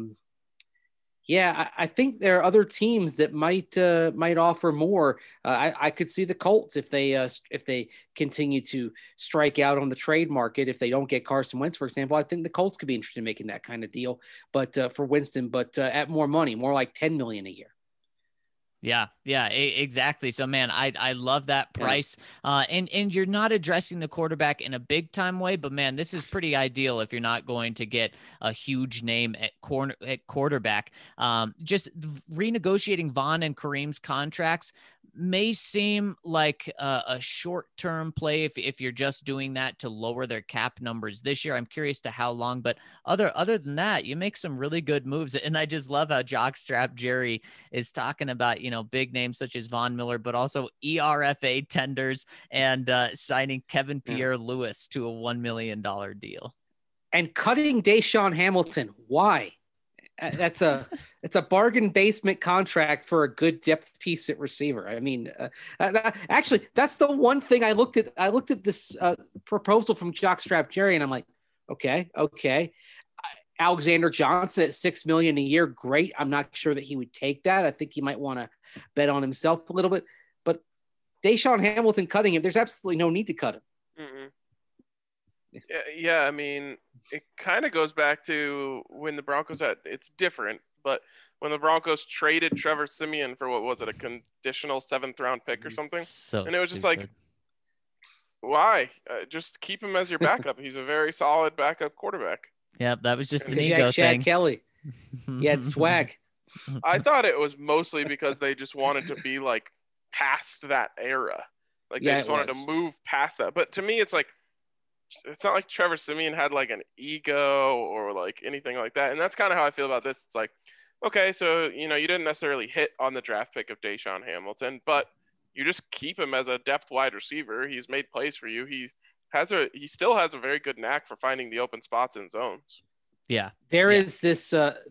yeah, I think there are other teams that might offer more. I could see the Colts if they continue to strike out on the trade market. If they don't get Carson Wentz, for example, I think the Colts could be interested in making that kind of deal, but for Winston, but at more money, more like $10 million a year. Yeah, exactly. So, man, I love that price. And you're not addressing the quarterback in a big time way, but man, this is pretty ideal if you're not going to get a huge name at quarterback. Just renegotiating Vaughn and Kareem's contracts may seem like a short-term play if you're just doing that to lower their cap numbers this year. I'm curious to how long, but other than that, you make some really good moves. And I just love how Jockstrap Jerry is talking about, big names such as Von Miller, but also ERFA tenders and signing Kevin Pierre-Louis to a $1 million deal. And cutting Deshaun Hamilton. Why? It's a bargain basement contract for a good depth piece at receiver. I mean, actually, that's the one thing I looked at. I looked at this proposal from Jockstrap Jerry, and I'm like, okay. Alexander Johnson at $6 million a year, great. I'm not sure that he would take that. I think he might want to bet on himself a little bit. But Deshaun Hamilton cutting him, there's absolutely no need to cut him. Mm-hmm. Yeah, I mean, it kind of goes back to when the Broncos it's different, but when the Broncos traded Trevor Siemian for, what was it, a conditional 7th round pick or something? And it was just like, why? Just keep him as your backup. He's a very solid backup quarterback. Yeah, that was just an ego thing. Chad Kelly. He had swag. I thought it was mostly because they just wanted to be like past that era. Like they just wanted to move past that. But to me, it's like, it's not like Trevor Siemian had like an ego or like anything like that. And that's kind of how I feel about this. It's like, okay, so, you didn't necessarily hit on the draft pick of Deshaun Hamilton, but you just keep him as a depth wide receiver. He's made plays for you. He still has a very good knack for finding the open spots in zones. Yeah. There is this,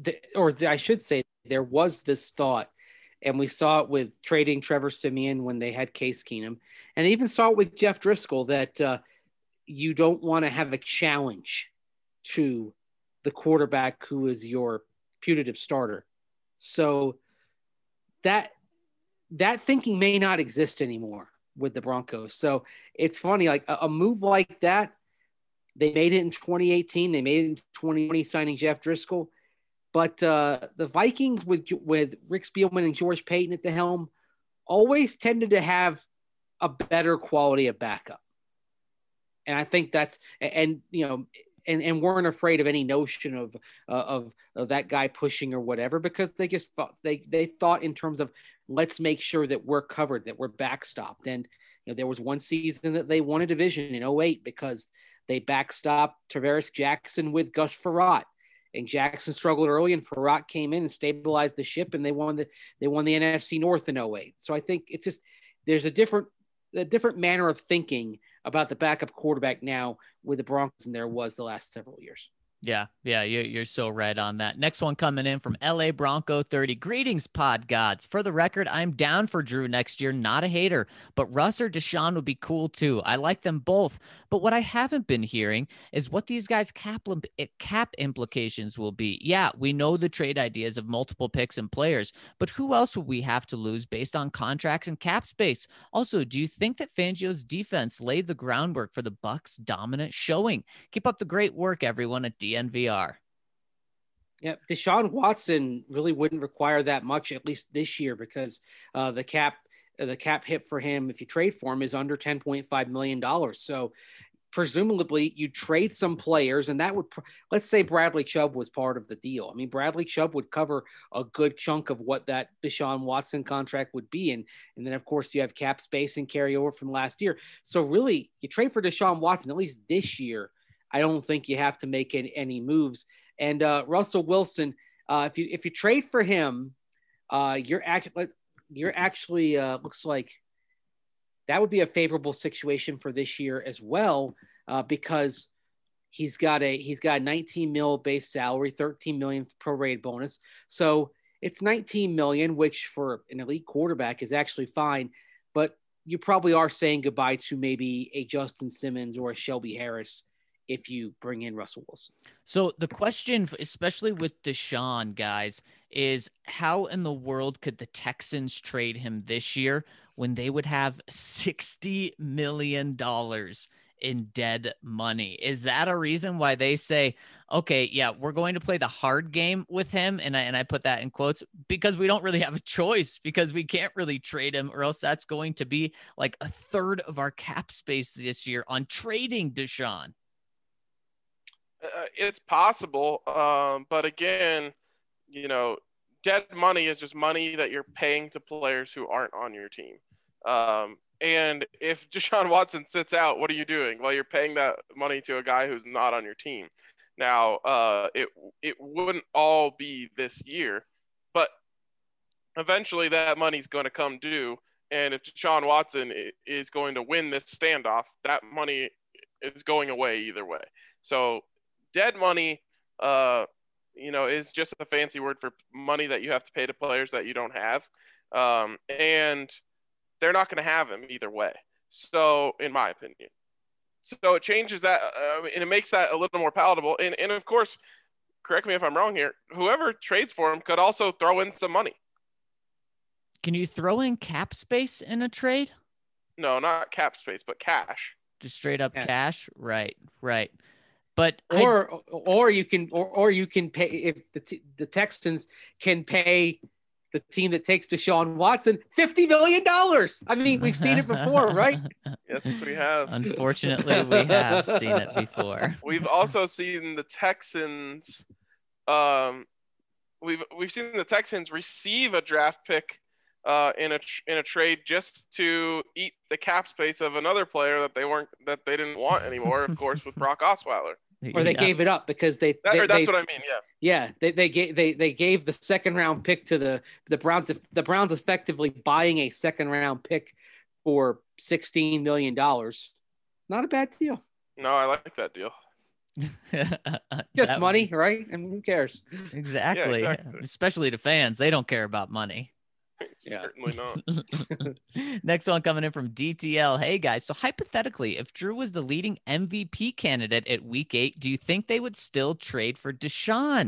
I should say, there was this thought, and we saw it with trading Trevor Siemian when they had Case Keenum, and even saw it with Jeff Driscoll, that you don't want to have a challenge to the quarterback who is your putative starter. So that thinking may not exist anymore with the Broncos. So it's funny, like a move like that, they made it in 2018. They made it in 2020 signing Jeff Driscoll. But the Vikings with Rick Spielman and George Payton at the helm always tended to have a better quality of backup. And I think that's and weren't afraid of any notion of that guy pushing or whatever, because they just thought they thought in terms of, let's make sure that we're covered, that we're backstopped. And there was one season that they won a division in 2008 because they backstopped Tavares Jackson with Gus Frerotte. And Jackson struggled early, and Frerotte came in and stabilized the ship, and they won the NFC North in 2008. So I think it's just, there's a different manner of thinking about the backup quarterback now with the Broncos than there was the last several years. Yeah, you're so right on that. Next one coming in from LA Bronco 30. Greetings, pod gods. For the record, I'm down for Drew next year, not a hater, but Russ or Deshaun would be cool too. I like them both. But what I haven't been hearing is what these guys' cap implications will be. Yeah, we know the trade ideas of multiple picks and players, but who else would we have to lose based on contracts and cap space? Also, do you think that Fangio's defense laid the groundwork for the Bucs' dominant showing? Keep up the great work, everyone at DNVR. Yeah, Deshaun Watson really wouldn't require that much, at least this year, because the cap hit for him, if you trade for him, is under $10.5 million. So presumably you trade some players, and that would, let's say Bradley Chubb was part of the deal. I mean, Bradley Chubb would cover a good chunk of what that Deshaun Watson contract would be. And then, of course, you have cap space and carryover from last year. So really, you trade for Deshaun Watson, at least this year, I don't think you have to make any moves. And Russell Wilson, if you trade for him, you're actually looks like that would be a favorable situation for this year as well, because He's got a 19 mil base salary, 13 million prorated bonus. So it's 19 million, which for an elite quarterback is actually fine. But you probably are saying goodbye to maybe a Justin Simmons or a Shelby Harris if you bring in Russell Wilson. So the question, especially with Deshaun, guys, is how in the world could the Texans trade him this year when they would have $60 million in dead money? Is that a reason why they say, okay, yeah, we're going to play the hard game with him? And I put that in quotes because we don't really have a choice, because we can't really trade him, or else that's going to be like a third of our cap space this year on trading Deshaun. It's possible. But again, dead money is just money that you're paying to players who aren't on your team. And if Deshaun Watson sits out, what are you doing? Well, you're paying that money to a guy who's not on your team. Now, it wouldn't all be this year, but eventually that money's going to come due. And if Deshaun Watson is going to win this standoff, that money is going away either way. So dead money, is just a fancy word for money that you have to pay to players that you don't have. And they're not going to have him either way. So, in my opinion. So it changes that, and it makes that a little more palatable. And of course, correct me if I'm wrong here, whoever trades for him could also throw in some money. Can you throw in cap space in a trade? No, not cap space, but cash. Just straight up cash? Right. But or you can pay, if the Texans can pay the team that takes Deshaun Watson $50 million. I mean, we've seen it before, right? Yes, we have. Unfortunately, we have seen it before. We've also seen the Texans. We've seen the Texans receive a draft pick in a trade just to eat the cap space of another player that they didn't want anymore. Of course, with Brock Osweiler. Or they gave it up because that's what I mean. Yeah. Yeah. They gave the second round pick to the Browns. The Browns effectively buying a second round pick for $16 million. Not a bad deal. No, I like that deal. Just money, right? I mean, who cares? Exactly. Yeah, exactly. Especially to fans. They don't care about money. Certainly not. Next one coming in from DTL. Hey guys, so hypothetically, if Drew was the leading MVP candidate at week 8, do you think they would still trade for Deshaun?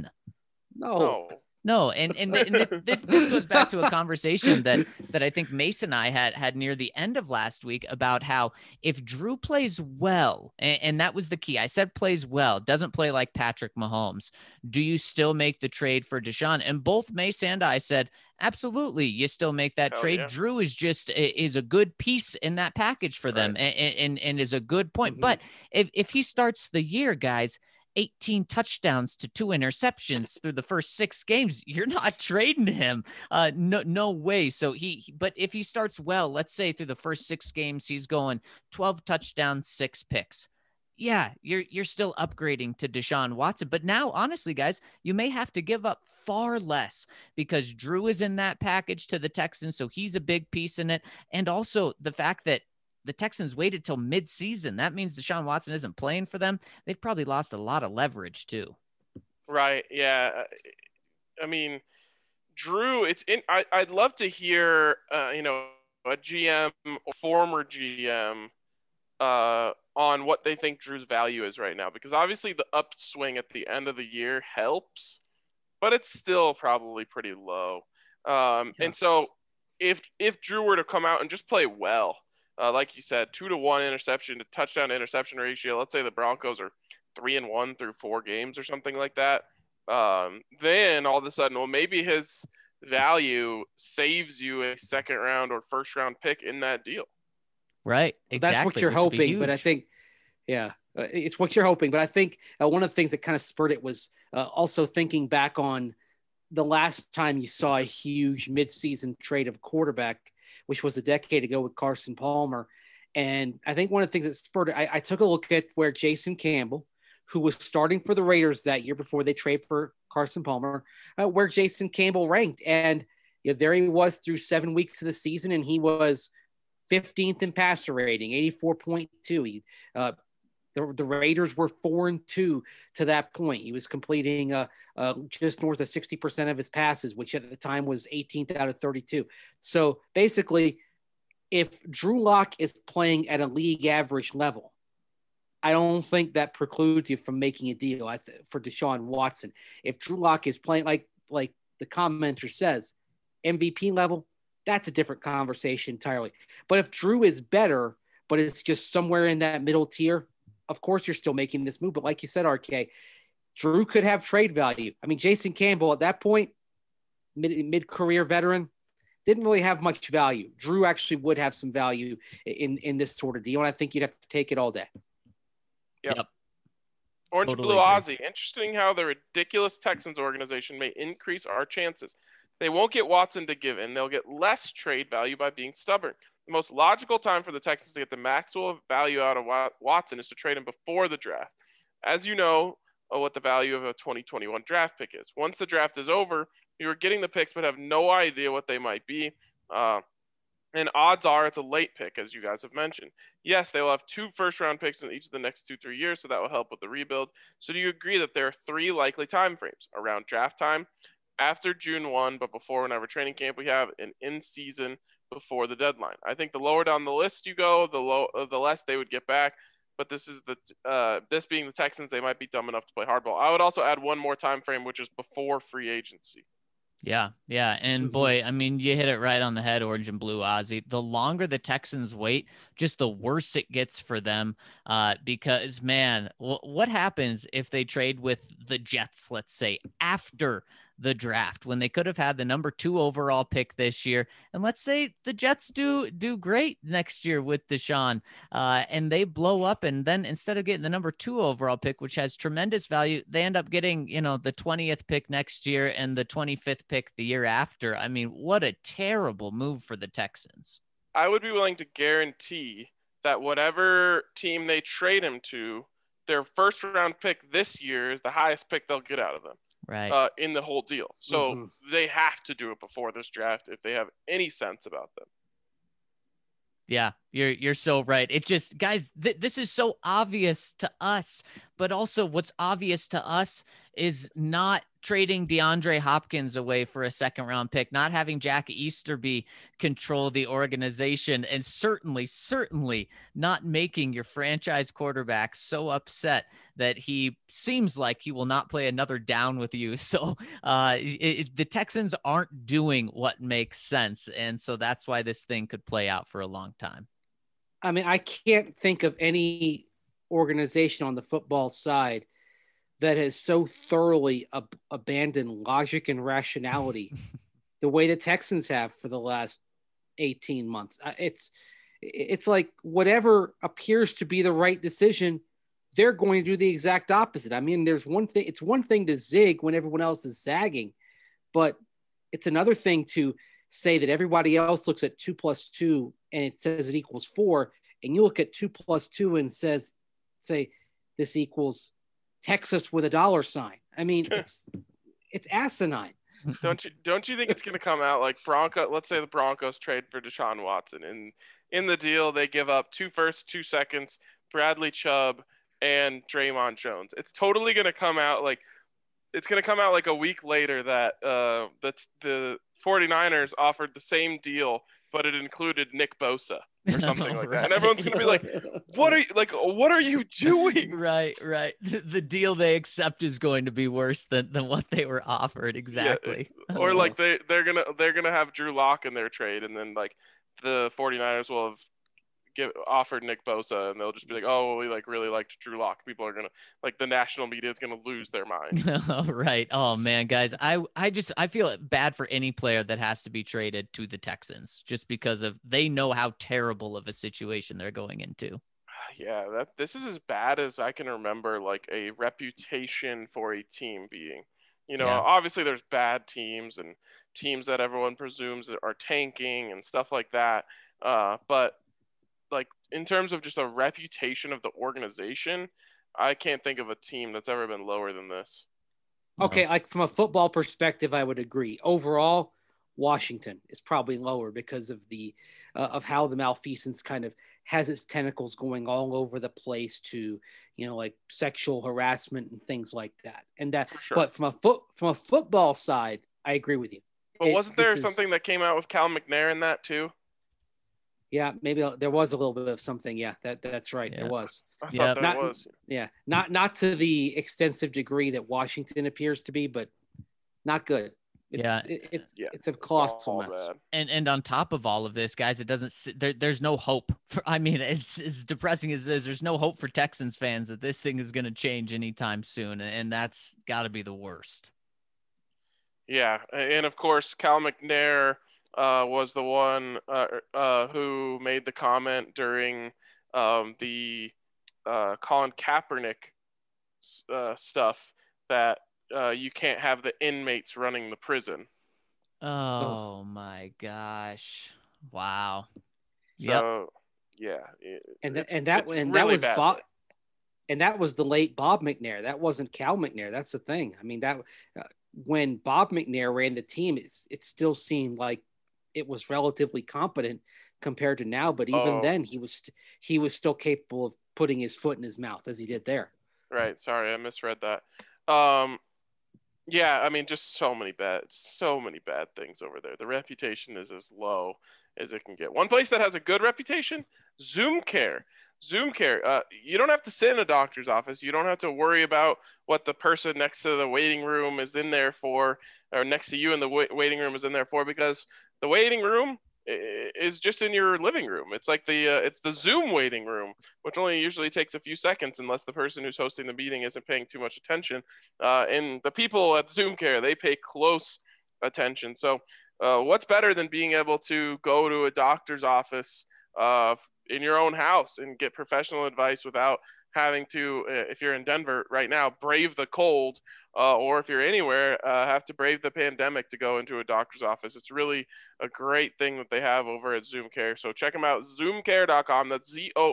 No, and this goes back to a conversation that I think Mason and I had near the end of last week about how if Drew plays well, and that was the key. I said plays well, doesn't play like Patrick Mahomes. Do you still make the trade for Deshaun? And both Mason and I said, absolutely, you still make that trade. Yeah. Drew is a good piece in that package for them, and is a good point. Mm-hmm. But if he starts the year, guys, 18 touchdowns to 2 interceptions through the first 6 games, you're not trading him. No way. So but if he starts well, let's say through the first 6 games, he's going 12 touchdowns, 6 picks. Yeah, you're still upgrading to Deshaun Watson. But now, honestly, guys, you may have to give up far less because Drew is in that package to the Texans. So he's a big piece in it. And also the fact that the Texans waited till mid-season. That means Deshaun Watson isn't playing for them. They've probably lost a lot of leverage too. Right. Yeah. I mean, Drew, I'd love to hear, a GM or former GM on what they think Drew's value is right now, because obviously the upswing at the end of the year helps, but it's still probably pretty low. And so if Drew were to come out and just play well, like you said, 2-to-1 interception to touchdown to interception ratio. Let's say the Broncos are 3-1 through 4 games or something like that. Then all of a sudden, well, maybe his value saves you a second round or first round pick in that deal. Right. Exactly. That's what you're hoping. But I think, it's what you're hoping. But I think one of the things that kind of spurred it was also thinking back on the last time you saw a huge midseason trade of a quarterback, which was a decade ago with Carson Palmer. And I think one of the things that spurred it, I took a look at where Jason Campbell, who was starting for the Raiders that year before they trade for Carson Palmer, where Jason Campbell ranked. And there he was through 7 weeks of the season, and he was 15th in passer rating, 84.2. The Raiders were 4-2 to that point. He was completing just north of 60% of his passes, which at the time was 18th out of 32. So basically, if Drew Lock is playing at a league average level, I don't think that precludes you from making a deal for Deshaun Watson. If Drew Lock is playing like the commenter says, MVP level, that's a different conversation entirely. But if Drew is better, but it's just somewhere in that middle tier, of course you're still making this move. But like you said, RK, Drew could have trade value. I mean, Jason Campbell at that point, mid-career veteran, didn't really have much value. Drew actually would have some value in this sort of deal, and I think you'd have to take it all day. Yep. Orange Totally Blue agree. Aussie. Interesting how the ridiculous Texans organization may increase our chances. They won't get Watson to give in. They'll get less trade value by being stubborn. The most logical time for the Texans to get the maximum value out of Watson is to trade him before the draft. As you know, what the value of a 2021 draft pick is. Once the draft is over, you are getting the picks but have no idea what they might be. And odds are it's a late pick, as you guys have mentioned. Yes, they will have 2 first-round picks in each of the next 2-3 years, so that will help with the rebuild. So do you agree that there are 3 likely time frames? Around draft time, after June 1, but before whenever training camp we have, and in season before the deadline? I think the lower down the list you go, the less they would get back. But this is this being the Texans, they might be dumb enough to play hardball. I would also add one more time frame, which is before free agency. Yeah. And boy, I mean, you hit it right on the head, Orange and Blue Aussie. The longer the Texans wait, just the worse it gets for them. Because, man, what happens if they trade with the Jets, let's say, after the draft, when they could have had the number 2 overall pick this year? And let's say the Jets do great next year with Deshaun, and they blow up, and then instead of getting the number 2 overall pick, which has tremendous value, they end up getting, the 20th pick next year and the 25th pick the year after. I mean, what a terrible move for the Texans. I would be willing to guarantee that whatever team they trade him to, their first round pick this year is the highest pick they'll get out of them. Right. In the whole deal. So they have to do it before this draft if they have any sense about them. Yeah, you're so right. It just, guys, this is so obvious to us, but also what's obvious to us is not trading DeAndre Hopkins away for a second round pick, not having Jack Easterby control the organization, and certainly not making your franchise quarterback so upset that he seems like he will not play another down with you. So the Texans aren't doing what makes sense. And so that's why this thing could play out for a long time. I mean, I can't think of any organization on the football side that has so thoroughly abandoned logic and rationality the way the Texans have for the last 18 months. It's like whatever appears to be the right decision, they're going to do the exact opposite. I mean, it's one thing to zig when everyone else is zagging, but it's another thing to say that everybody else looks at 2 + 2 and it says it equals 4. And you look at 2 + 2 and say this equals Texas with a $. I mean, it's asinine. Don't you think it's going to come out like let's say the Broncos trade for Deshaun Watson, and in the deal they give up 2 firsts, 2 seconds, Bradley Chubb, and Draymond Jones. It's totally going to come out like a week later that the 49ers offered the same deal, but it included Nick Bosa or something like that. And everyone's going to be like, what are you doing? Right. The deal they accept is going to be worse than what they were offered. Exactly. Yeah. Or like they're going to have Drew Lock in their trade, and then like the 49ers will have offered Nick Bosa, and they'll just be like, oh, well, we really liked Drew Lock. People are gonna the national media is gonna lose their mind. Right. Oh man, guys, I feel bad for any player that has to be traded to the Texans just because they know how terrible of a situation they're going into. Yeah, this is as bad as I can remember a reputation for a team being. Obviously there's bad teams and teams that everyone presumes are tanking and stuff like that. But in terms of just a reputation of the organization, I can't think of a team that's ever been lower than this. Okay, from a football perspective, I would agree. Overall, Washington is probably lower because of of how the malfeasance kind of has its tentacles going all over the place to, like sexual harassment and things like that. And that, For sure. but from a football side, I agree with you. But wasn't there something that came out with Cal McNair in that too? Yeah, maybe there was a little bit of something. Yeah, that's right. Yeah. There was. I thought there was. Yeah, not to the extensive degree that Washington appears to be, but not good. It's a colossal mess. And on top of all of this, guys, it doesn't. There's no hope. It's as depressing as it is. There's no hope for Texans fans that this thing is going to change anytime soon, and that's got to be the worst. Yeah, and of course, Cal McNair was the one who made the comment during the Colin Kaepernick stuff that you can't have the inmates running the prison. Oh my gosh! Wow. So yeah, that was Bob, and that was the late Bob McNair. That wasn't Cal McNair. That's the thing. I mean, that when Bob McNair ran the team, it still seemed like it was relatively competent compared to now. But even then, he was still capable of putting his foot in his mouth as he did there. Right. Sorry, I misread that. Yeah, I mean, just so many bad things over there. The reputation is as low as it can get. One place that has a good reputation, Zoom Care. Zoom Care. You don't have to sit in a doctor's office. You don't have to worry about what the person next to the waiting room is in there for, or next to you in the waiting room is in there for, because the waiting room is just in your living room. It's like it's the Zoom waiting room, which only usually takes a few seconds unless the person who's hosting the meeting isn't paying too much attention. And the people at Zoom Care, they pay close attention. So what's better than being able to go to a doctor's office in your own house and get professional advice without having to, if you're in Denver right now, brave the cold, or if you're anywhere, have to brave the pandemic to go into a doctor's office. It's really a great thing that they have over at Zoom Care. So check them out, zoomcare.com. That's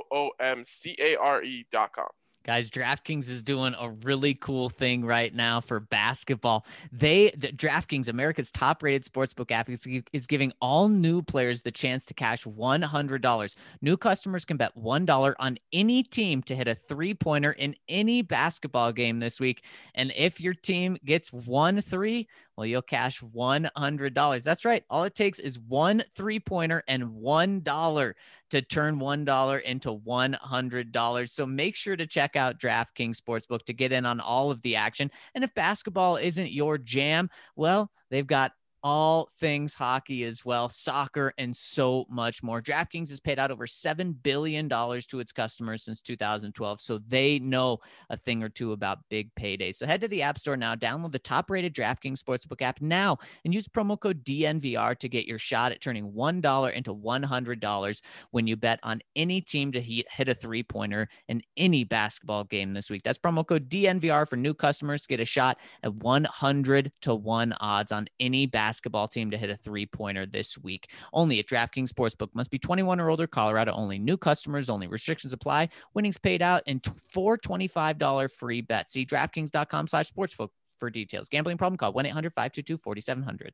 ZOOMCARE.com. Guys, DraftKings is doing a really cool thing right now for basketball. DraftKings, America's top-rated sportsbook app, is giving all new players the chance to cash $100. New customers can bet $1 on any team to hit a three-pointer in any basketball game this week. And if your team gets 1 3, well, you'll cash $100. That's right. All it takes is 1 3-pointer and $1 to turn $1 into $100. So make sure to check out DraftKings Sportsbook to get in on all of the action. And if basketball isn't your jam, well, they've got all things hockey as well, soccer, and so much more. DraftKings has paid out over $7 billion to its customers since 2012, so they know a thing or two about big paydays. So head to the App Store now, download the top-rated DraftKings Sportsbook app now, and use promo code DNVR to get your shot at turning $1 into $100 when you bet on any team to hit a three-pointer in any basketball game this week. That's promo code DNVR for new customers to get a shot at 100-1 odds on any basketball team to hit a three-pointer this week. Only at DraftKings Sportsbook. Must be 21 or older. Colorado only. New customers only. Restrictions apply. Winnings paid out in $4 $25 free bets. See DraftKings.com/sportsbook for details. Gambling problem? Call 1-800-522-4700.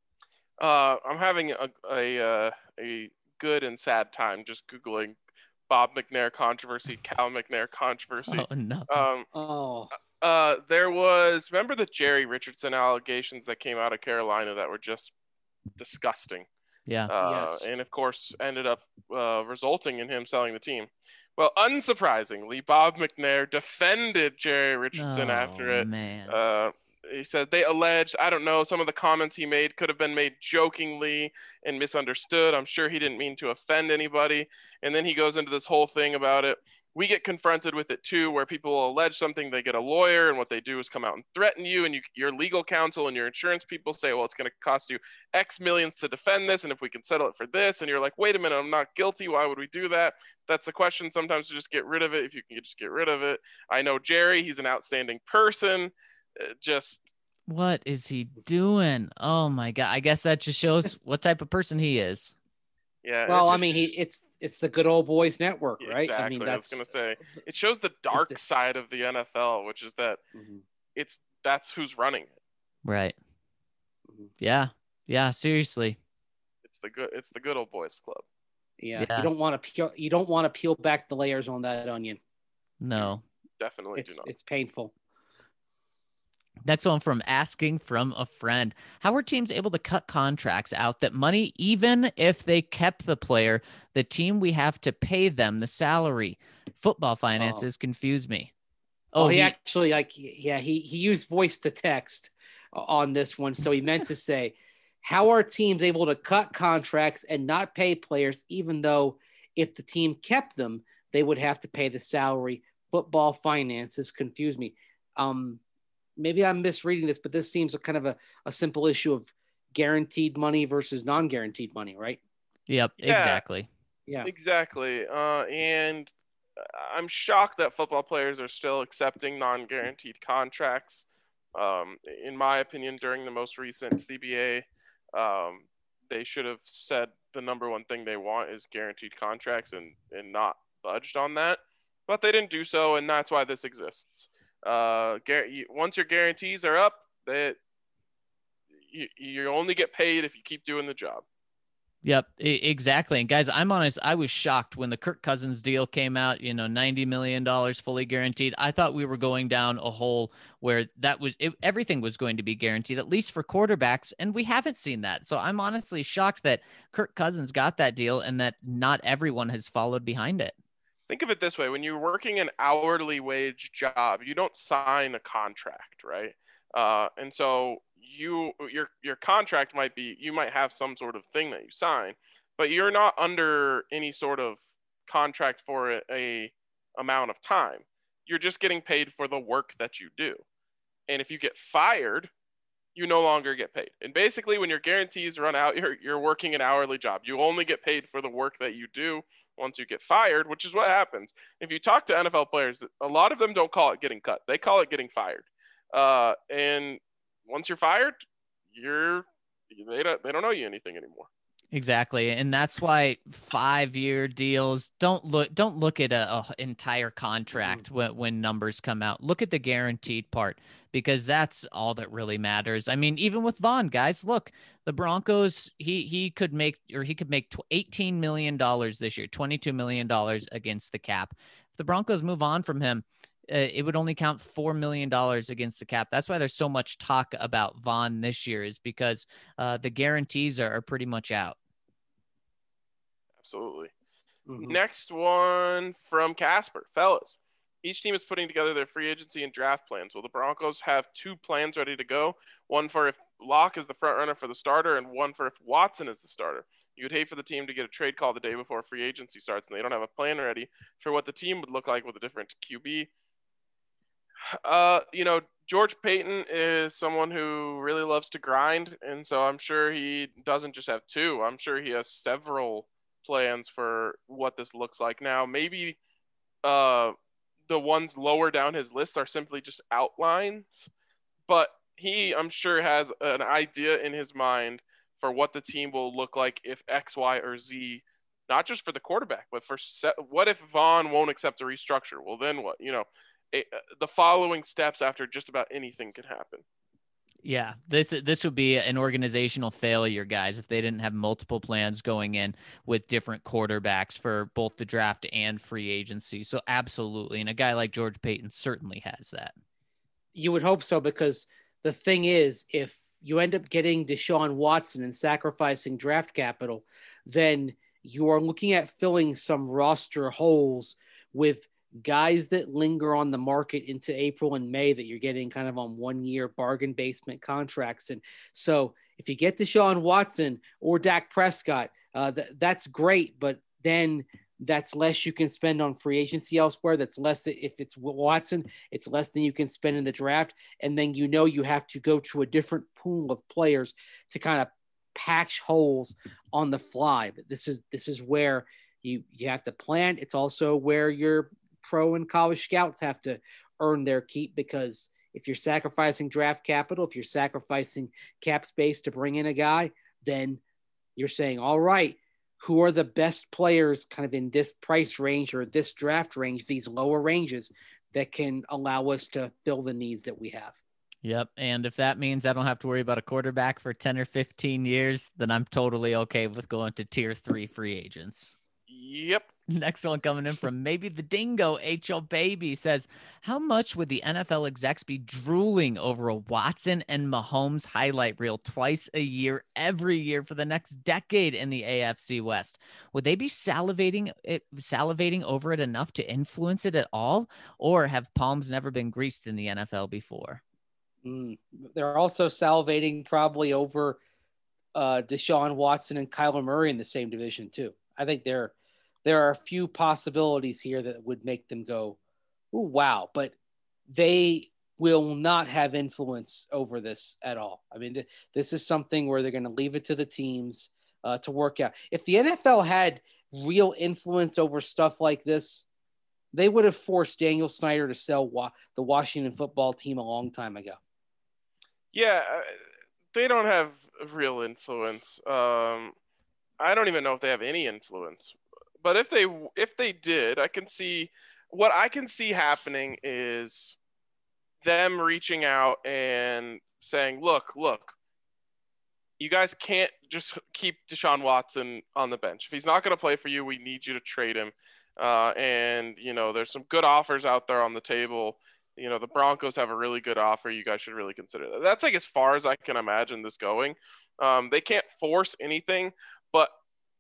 I'm having a good and sad time just Googling Bob McNair controversy, Cal McNair controversy. Oh, no. There was, remember the Jerry Richardson allegations that came out of Carolina that were just disgusting? Yeah. Yes. And of course ended up resulting in him selling the team. Well, unsurprisingly, Bob McNair defended Jerry Richardson after it. Man. He said they alleged, I don't know, some of the comments he made could have been made jokingly and misunderstood. I'm sure he didn't mean to offend anybody. And then he goes into this whole thing about it. We get confronted with it too, where people allege something, they get a lawyer, and what they do is come out and threaten you, and your legal counsel and your insurance people say, well, it's going to cost you X millions to defend this, and if we can settle it for this, and you're like, wait a minute, I'm not guilty, why would we do that? That's the question sometimes, to just get rid of it. If you can just get rid of it. I know Jerry, he's an outstanding person. What is he doing? Oh my God. I guess that just shows what type of person he is. Yeah. Well, I mean, it's the good old boys network, right? Exactly. I mean, I was gonna say it shows the dark side of the NFL, which is that that's who's running it. Right. Yeah. Yeah. Seriously. It's the good old boys club. Yeah, Yeah. you don't want to peel back the layers on that onion. No. Definitely do not. It's painful. Next one from Asking from a Friend. How are teams able to cut contracts out that money, even if they kept the player, the team we have to pay them the salary? Football finances confuse me. He actually he used voice to text on this one. So he meant to say, how are teams able to cut contracts and not pay players, even though if the team kept them, they would have to pay the salary? Football finances confuse me. Maybe I'm misreading this, but this seems a kind of a simple issue of guaranteed money versus non-guaranteed money, right? Yep, Yeah, exactly. Yeah, exactly. And I'm shocked that football players are still accepting non-guaranteed contracts. In my opinion, during the most recent CBA, they should have said the number one thing they want is guaranteed contracts and not budged on that. But they didn't do so, and that's why this exists. Once your guarantees are up, you only get paid if you keep doing the job. Yep, exactly. And guys, I'm honest, I was shocked when the Kirk Cousins deal came out, $90 million fully guaranteed. I thought we were going down a hole where everything was going to be guaranteed, at least for quarterbacks. And we haven't seen that. So I'm honestly shocked that Kirk Cousins got that deal and that not everyone has followed behind it. Think of it this way. When you're working an hourly wage job, you don't sign a contract, right? And so your contract you might have some sort of thing that you sign, but you're not under any sort of contract for a amount of time. You're just getting paid for the work that you do. And if you get fired, you no longer get paid. And basically when your guarantees run out, you're working an hourly job. You only get paid for the work that you do once you get fired, which is what happens. If you talk to NFL players, a lot of them don't call it getting cut. They call it getting fired. And once you're fired, they don't owe you anything anymore. Exactly. And that's why 5-year deals don't look at a entire contract when numbers come out. Look at the guaranteed part, because that's all that really matters. I mean, even with Vaughn, guys, look, the Broncos, he could make $18 million this year, $22 million against the cap. If the Broncos move on from him, it would only count $4 million against the cap. That's why there's so much talk about Vaughn this year, is because the guarantees are pretty much out. Absolutely. Mm-hmm. Next one from Casper. Fellas, each team is putting together their free agency and draft plans. Will the Broncos have 2 plans ready to go? One for if Locke is the front runner for the starter, and one for if Watson is the starter. You would hate for the team to get a trade call the day before free agency starts and they don't have a plan ready for what the team would look like with a different QB. George Paton is someone who really loves to grind, and so I'm sure he doesn't just have 2. I'm sure he has several plans for what this looks like. Now, maybe the ones lower down his list are simply just outlines, but he, I'm sure, has an idea in his mind for what the team will look like if X, Y, or Z, not just for the quarterback, but for what if Vaughn won't accept a restructure? Well, then what? The following steps after just about anything can happen. Yeah, this would be an organizational failure, guys, if they didn't have multiple plans going in with different quarterbacks for both the draft and free agency. So absolutely. And a guy like George Paton certainly has that. You would hope so, because the thing is, if you end up getting Deshaun Watson and sacrificing draft capital, then you are looking at filling some roster holes with guys that linger on the market into April and May that you're getting kind of on 1-year bargain basement contracts. And so if you get Deshaun Watson or Dak Prescott, that's great, but then that's less you can spend on free agency elsewhere. That's less. If it's Watson, it's less than you can spend in the draft. And then you have to go to a different pool of players to kind of patch holes on the fly. But this is where you have to plan. It's also where your pro and college scouts have to earn their keep, because if you're sacrificing draft capital, if you're sacrificing cap space to bring in a guy, then you're saying, all right, who are the best players kind of in this price range or this draft range, these lower ranges, that can allow us to fill the needs that we have. Yep. And if that means I don't have to worry about a quarterback for 10 or 15 years, then I'm totally okay with going to tier 3 free agents. Yep. Next one coming in from maybe the Dingo HL Baby says, how much would the NFL execs be drooling over a Watson and Mahomes highlight reel twice a year, every year for the next decade in the AFC West? Would they be salivating over it enough to influence it at all? Or have palms never been greased in the NFL before? They're also salivating probably over Deshaun Watson and Kyler Murray in the same division too. I think there are a few possibilities here that would make them go, "Ooh, wow!" But they will not have influence over this at all. I mean, this is something where they're going to leave it to the teams to work out. If the NFL had real influence over stuff like this, they would have forced Daniel Snyder to sell the Washington football team a long time ago. Yeah, they don't have real influence. I don't even know if they have any influence. But if they did, I can see happening is them reaching out and saying, look, you guys can't just keep Deshaun Watson on the bench. If he's not going to play for you, we need you to trade him. And, there's some good offers out there on the table. The Broncos have a really good offer. You guys should really consider that. That's like as far as I can imagine this going. They can't force anything, but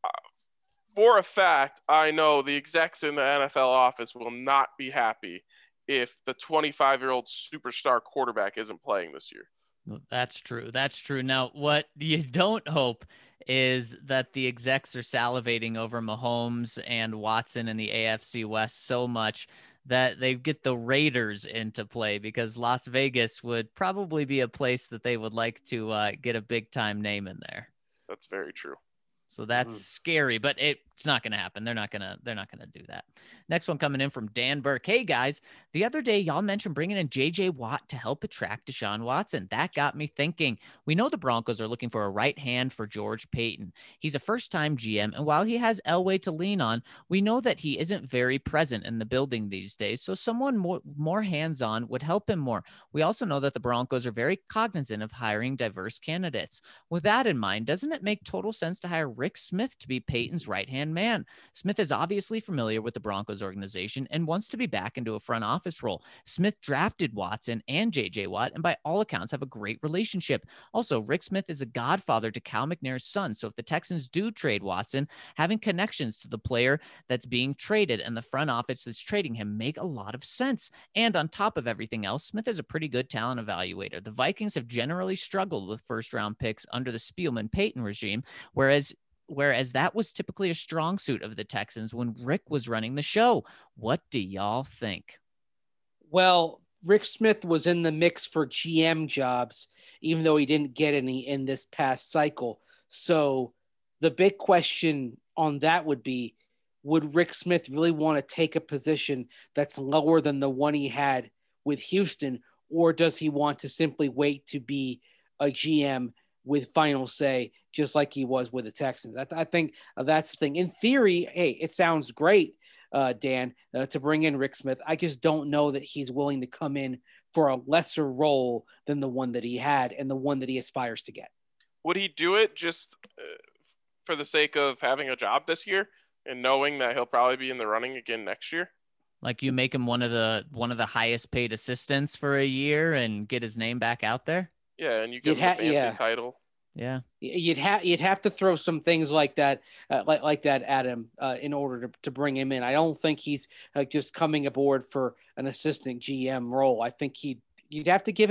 for a fact, I know the execs in the NFL office will not be happy if the 25-year-old superstar quarterback isn't playing this year. That's true. Now, what you don't hope is that the execs are salivating over Mahomes and Watson in the AFC West so much that they get the Raiders into play, because Las Vegas would probably be a place that they would like to get a big time name in there. That's very true. So that's scary, but it's not going to happen. They're not going to do that. Next one coming in from Dan Burke. Hey guys, the other day y'all mentioned bringing in JJ Watt to help attract Deshaun Watson. That got me thinking. We know the Broncos are looking for a right hand for George Paton. He's a first-time GM, and while he has Elway to lean on, we know that he isn't very present in the building these days, so someone more hands-on would help him more. We also know that the Broncos are very cognizant of hiring diverse candidates. With that in mind, doesn't it make total sense to hire Rick Smith to be Paton's right-hand man? Smith is obviously familiar with the Broncos organization and wants to be back into a front office role. Smith drafted Watson and JJ Watt, and by all accounts have a great relationship. Also, Rick Smith is a godfather to Cal McNair's son, so if the Texans do trade Watson, having connections to the player that's being traded and the front office that's trading him make a lot of sense. And on top of everything else, Smith is a pretty good talent evaluator. The Vikings have generally struggled with first-round picks under the Spielman-Payton regime, whereas that was typically a strong suit of the Texans when Rick was running the show. What do y'all think? Well, Rick Smith was in the mix for GM jobs, even though he didn't get any in this past cycle. So the big question on that would be, would Rick Smith really want to take a position that's lower than the one he had with Houston, or does he want to simply wait to be a GM with final say, just like he was with the Texans? I think that's the thing. In theory, hey, it sounds great, Dan, to bring in Rick Smith. I just don't know that he's willing to come in for a lesser role than the one that he had and the one that he aspires to get. Would he do it just for the sake of having a job this year and knowing that he'll probably be in the running again next year? Like, you make him one of the highest paid assistants for a year and get his name back out there? Yeah, and you get a fancy title. Yeah, you'd have to throw some things like that, at him in order to bring him in. I don't think he's just coming aboard for an assistant GM role. I think you'd have to give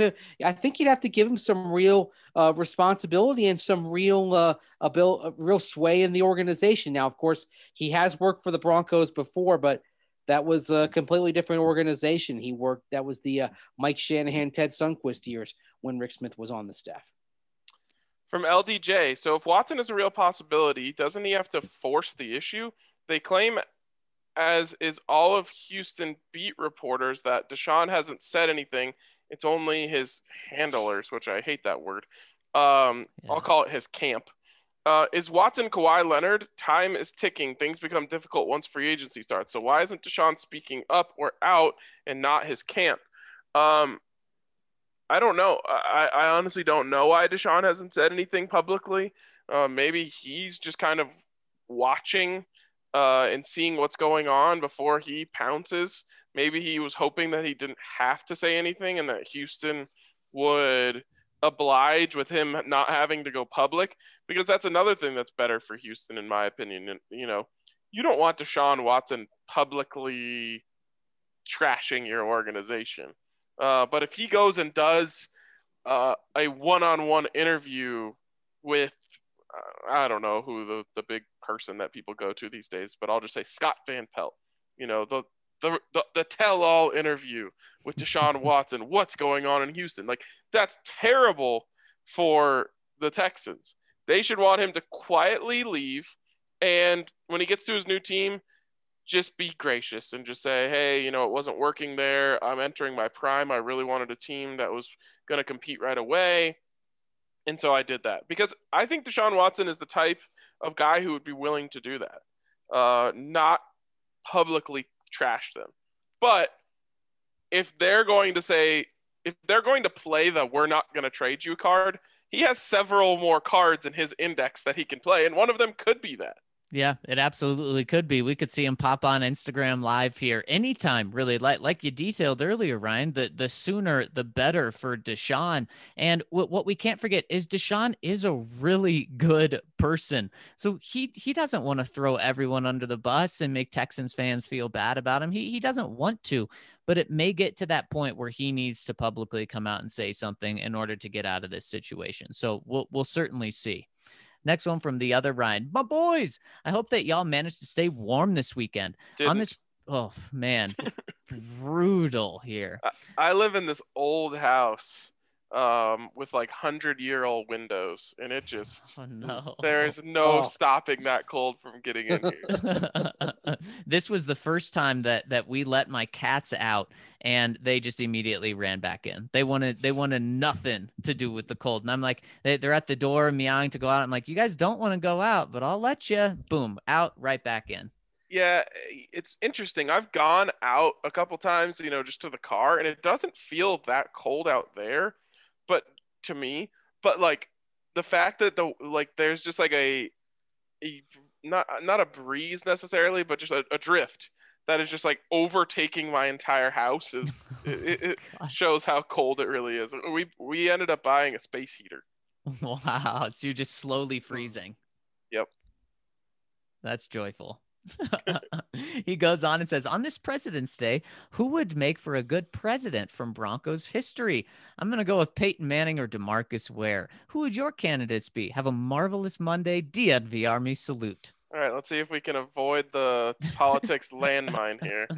him some real responsibility and some real real sway in the organization. Now, of course, he has worked for the Broncos before, but that was a completely different organization. That was the Mike Shanahan, Ted Sundquist years when Rick Smith was on the staff. From LDJ, so if Watson is a real possibility, doesn't he have to force the issue? They claim, as is all of Houston beat reporters, that Deshaun hasn't said anything. It's only his handlers, which I hate that word. I'll call it his camp. Is Watson Kawhi Leonard? Time is ticking. Things become difficult once free agency starts. So why isn't Deshaun speaking up or out and not his camp? I don't know. I honestly don't know why Deshaun hasn't said anything publicly. Maybe he's just kind of watching and seeing what's going on before he pounces. Maybe he was hoping that he didn't have to say anything and that Houston would oblige with him not having to go public, because that's another thing that's better for Houston, in my opinion. And, you don't want Deshaun Watson publicly trashing your organization. But if he goes and does a one-on-one interview with, I don't know who the big person that people go to these days, but I'll just say Scott Van Pelt, the tell-all interview with Deshaun Watson, what's going on in Houston. Like, that's terrible for the Texans. They should want him to quietly leave, and when he gets to his new team, just be gracious and just say, hey, it wasn't working there. I'm entering my prime. I really wanted a team that was going to compete right away. And so I did that, because I think Deshaun Watson is the type of guy who would be willing to do that, not publicly trash them. But if they're going to play the we're not going to trade you card, he has several more cards in his index that he can play, and one of them could be that. Yeah, it absolutely could be. We could see him pop on Instagram Live here anytime, really. Like you detailed earlier, Ryan, the sooner the better for Deshaun. And what we can't forget is Deshaun is a really good person. So he doesn't want to throw everyone under the bus and make Texans fans feel bad about him. He doesn't want to, but it may get to that point where he needs to publicly come out and say something in order to get out of this situation. So we'll certainly see. Next one from the other Ryan. My boys, I hope that y'all managed to stay warm this weekend. On this, oh man, brutal here. I live in this old house with like 100-year-old windows, and it just there's no stopping that cold from getting in here. This was the first time that we let my cats out, and they just immediately ran back in. They wanted nothing to do with the cold, and I'm like, they're at the door meowing to go out. I'm like, you guys don't want to go out, but I'll let you. Boom, out, right back in. Yeah, it's interesting. I've gone out a couple times, just to the car, and it doesn't feel that cold out there. But to me, like the fact that there's just like a not a breeze necessarily, but just a drift that is just like overtaking my entire house it shows how cold it really is. We ended up buying a space heater. Wow, so you're just slowly freezing. Yep. That's joyful. He goes on and says, on this President's Day, who would make for a good president from Broncos history? I'm going to go with Peyton Manning or DeMarcus Ware. Who would your candidates be? Have a marvelous Monday. DNV Army salute. All right, let's see if we can avoid the politics landmine here.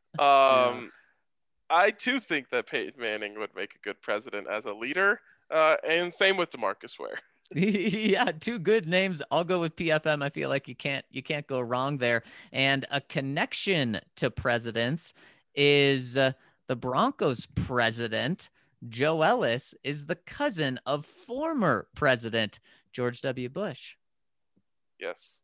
I too think that Peyton Manning would make a good president as a leader, and same with DeMarcus Ware. Yeah, two good names. I'll go with PFM. I feel like you can't go wrong there. And a connection to presidents is the Broncos president, Joe Ellis, is the cousin of former president George W. Bush. Yes,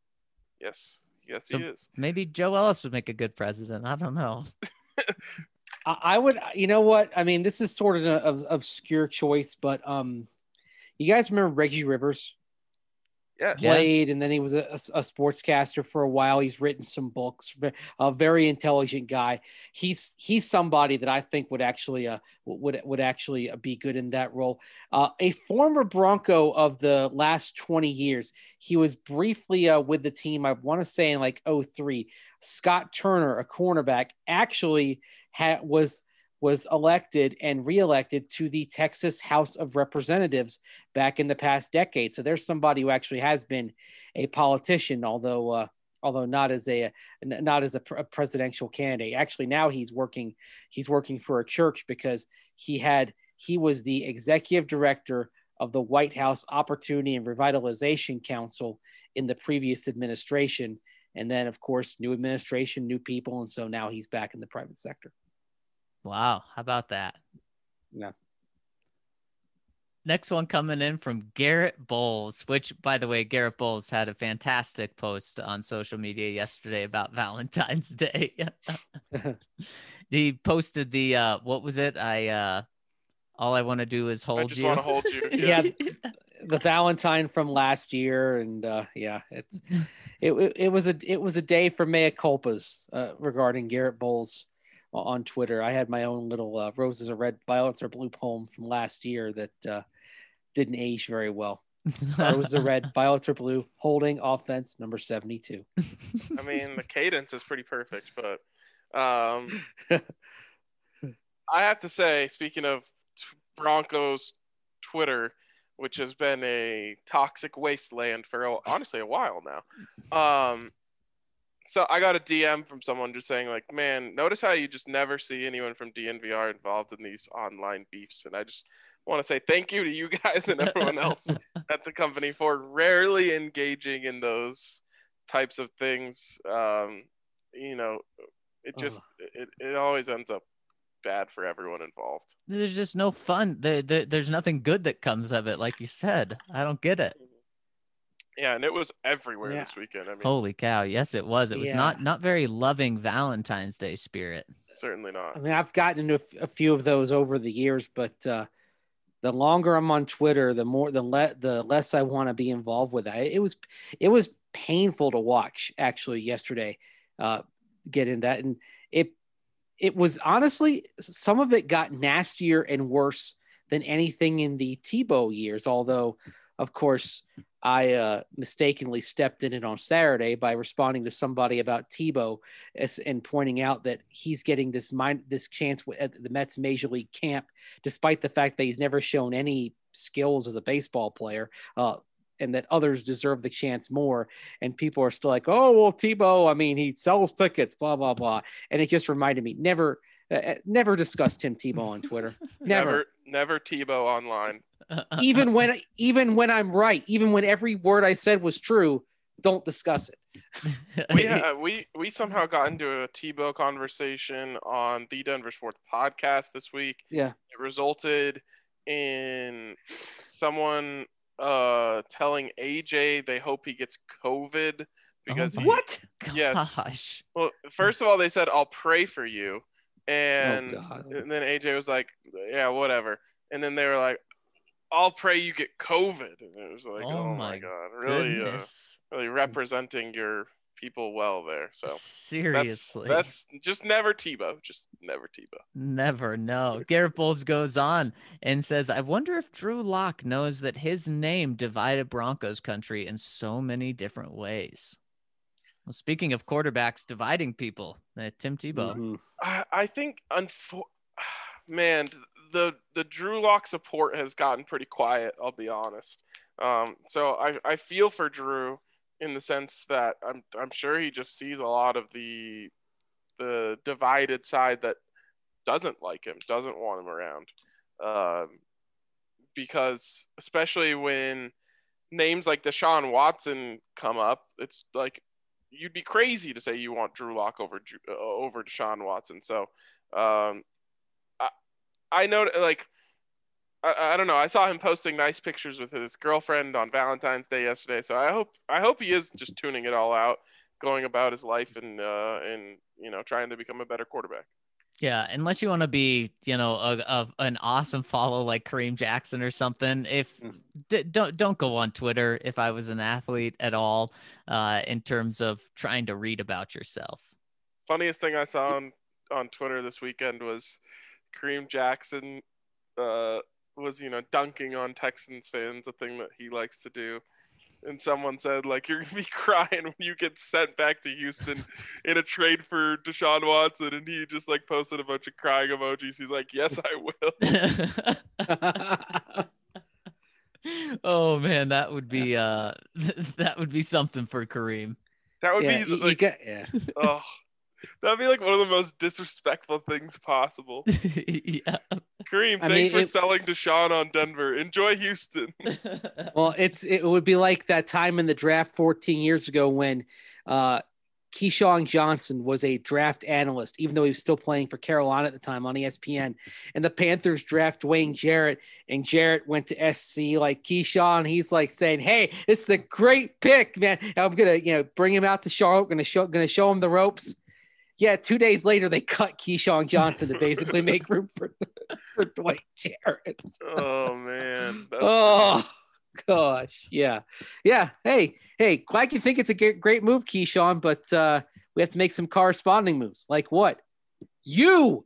So he is. Maybe Joe Ellis would make a good president. I don't know. I would, what? I mean, this is sort of an obscure choice, but you guys remember Reggie Rivers? Yeah. Played, and then he was a sportscaster for a while. He's written some books. A very intelligent guy. He's somebody that I think would actually be good in that role. A former Bronco of the last 20 years. He was briefly with the team, I want to say in like 2003. Scott Turner, a cornerback, actually was elected and reelected to the Texas House of Representatives back in the past decade. So there's somebody who actually has been a politician, although not as a presidential candidate. Actually, now he's working for a church, because he was the executive director of the White House Opportunity and Revitalization Council in the previous administration. And then, of course, new administration, new people. And so now he's back in the private sector. Wow. How about that? Yeah. Next one coming in from Garrett Bowles, which, by the way, Garrett Bowles had a fantastic post on social media yesterday about Valentine's Day. He posted the, what was it? All I want to do is hold you. I just want to hold you. Yeah. the Valentine from last year, and it was a day for mea culpas regarding Garrett Bowles on Twitter. I had my own little roses are red, violets are blue poem from last year that didn't age very well. Roses are red, violets are blue. Holding offense number 72. I mean, the cadence is pretty perfect, but I have to say, speaking of Broncos Twitter, which has been a toxic wasteland for honestly a while now. So I got a DM from someone just saying, like, man, notice how you just never see anyone from DNVR involved in these online beefs. And I just want to say thank you to you guys and everyone else at the company for rarely engaging in those types of things. You know, it always ends up bad for everyone involved. There's just no fun. There's nothing good that comes of it, like you said. I don't get it. Yeah, and it was everywhere this weekend. I mean, holy cow! Yes, it was. It was not very loving Valentine's Day spirit. Certainly not. I mean, I've gotten into a few of those over the years, but the longer I'm on Twitter, the less I want to be involved with that. It was painful to watch actually yesterday. Get in that, and it was honestly, some of it got nastier and worse than anything in the Tebow years. Although, of course, I mistakenly stepped in it on Saturday by responding to somebody about Tebow and pointing out that he's getting this chance at the Mets Major League camp, despite the fact that he's never shown any skills as a baseball player, and that others deserve the chance more. And people are still like, oh, well, Tebow, I mean, he sells tickets, blah, blah, blah. And it just reminded me, never discuss Tim Tebow on Twitter. Never Tebow online. Even when I'm right, even when every word I said was true, don't discuss it. We somehow got into a Tebow conversation on the Denver Sports Podcast this week. Yeah. It resulted in someone telling AJ they hope he gets COVID because what? Yes. Well, first of all, they said I'll pray for you, and then AJ was like, yeah, whatever. And then they were like, I'll pray you get COVID. And it was like, oh my God, really representing your people well there. So seriously, that's just never Tebow. Just never Tebow. Never. No. Garrett Bowles goes on and says, I wonder if Drew Lock knows that his name divided Broncos country in so many different ways. Well, speaking of quarterbacks dividing people, Tim Tebow. Mm-hmm. I think, man, the Drew Lock support has gotten pretty quiet, I'll be honest. So I feel for Drew in the sense that I'm sure he just sees a lot of the divided side that doesn't like him, doesn't want him around. Because especially when names like Deshaun Watson come up, it's like you'd be crazy to say you want Drew Lock over Deshaun Watson. So I know, like, I don't know. I saw him posting nice pictures with his girlfriend on Valentine's Day yesterday. So I hope he is just tuning it all out, going about his life and trying to become a better quarterback. Yeah, unless you want to be, an awesome follow like Kareem Jackson or something. Don't go on Twitter if I was an athlete at all, in terms of trying to read about yourself. Funniest thing I saw on Twitter this weekend was Kareem Jackson was dunking on Texans fans, a thing that he likes to do. And someone said, like, you're going to be crying when you get sent back to Houston in a trade for Deshaun Watson. And he just, like, posted a bunch of crying emojis. He's like, yes, I will. Oh, man, that would be something for Kareem. That would be, oh, that'd be, like, one of the most disrespectful things possible. Yeah. Kareem, thanks for selling Deshaun on Denver. Enjoy Houston. Well, it would be like that time in the draft 14 years ago when Keyshawn Johnson was a draft analyst, even though he was still playing for Carolina at the time on ESPN. And the Panthers draft Dwayne Jarrett, and Jarrett went to SC like Keyshawn. He's like saying, "Hey, it's a great pick, man. I'm gonna bring him out to Charlotte. Gonna show him the ropes." Yeah, 2 days later, they cut Keyshawn Johnson to basically make room for Dwayne Jarrett. Oh, man. gosh. Yeah. Hey, glad you think it's a great move, Keyshawn, but we have to make some corresponding moves. Like what? You.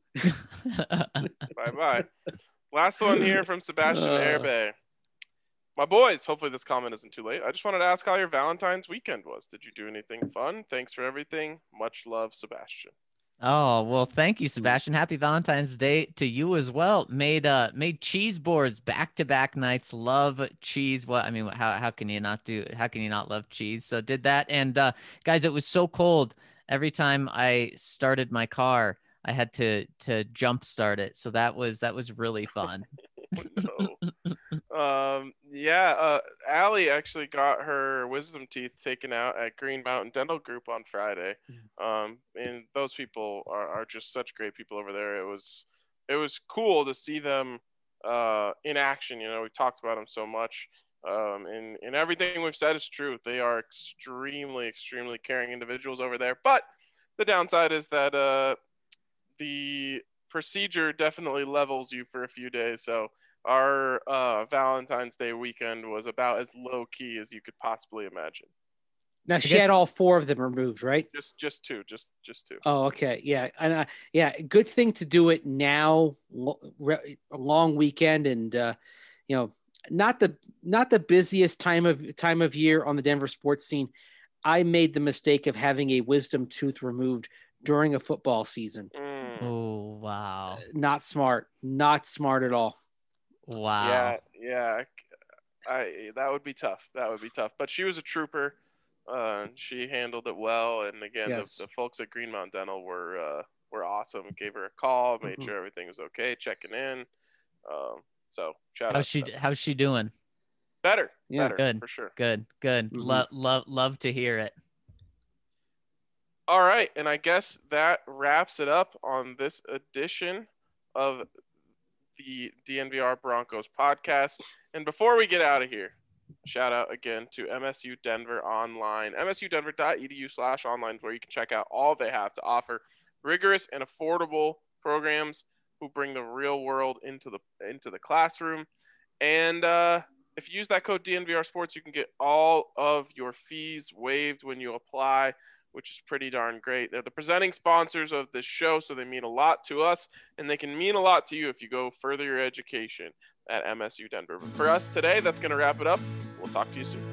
Bye. Last one here from Sebastian Herbe. My boys, hopefully this comment isn't too late. I just wanted to ask how your Valentine's weekend was. Did you do anything fun? Thanks for everything. Much love, Sebastian. Oh, well, thank you, Sebastian. Happy Valentine's Day to you as well. Made cheese boards back-to-back nights. Love cheese. What I mean, how can you not love cheese? So did that. And guys, it was so cold. Every time I started my car, I had to jump start it. So that was really fun. Allie actually got her wisdom teeth taken out at Green Mountain Dental Group on Friday. And those people are just such great people over there. It was cool to see them in action. You know, we've talked about them so much. And everything we've said is true. They are extremely, extremely caring individuals over there. But the downside is that the procedure definitely levels you for a few days. So our Valentine's Day weekend was about as low key as you could possibly imagine. Now she had all 4 of them removed, right? Just two. Oh, okay. Yeah. And good thing to do it now, a long weekend, and not the busiest time of year on the Denver sports scene. I made the mistake of having a wisdom tooth removed during a football season. Oh, wow. Not smart at all. Wow. Yeah. That would be tough. But she was a trooper. She handled it well. And again, yes. the folks at Green Mountain Dental were awesome. Gave her a call, made sure everything was okay, checking in. So shout out. How's she doing? Better. Yeah. Better, Good. For sure. Good. Love to hear it. All right, and I guess that wraps it up on this edition of the DNVR Broncos podcast. And before we get out of here, shout out again to MSU Denver Online, msudenver.edu/online, where you can check out all they have to offer. Rigorous and affordable programs who bring the real world into the classroom. And if you use that code DNVR Sports, you can get all of your fees waived when you apply, which is pretty darn great. They're the presenting sponsors of this show, so they mean a lot to us, and they can mean a lot to you if you go further your education at MSU Denver. But for us today, that's going to wrap it up. We'll talk to you soon.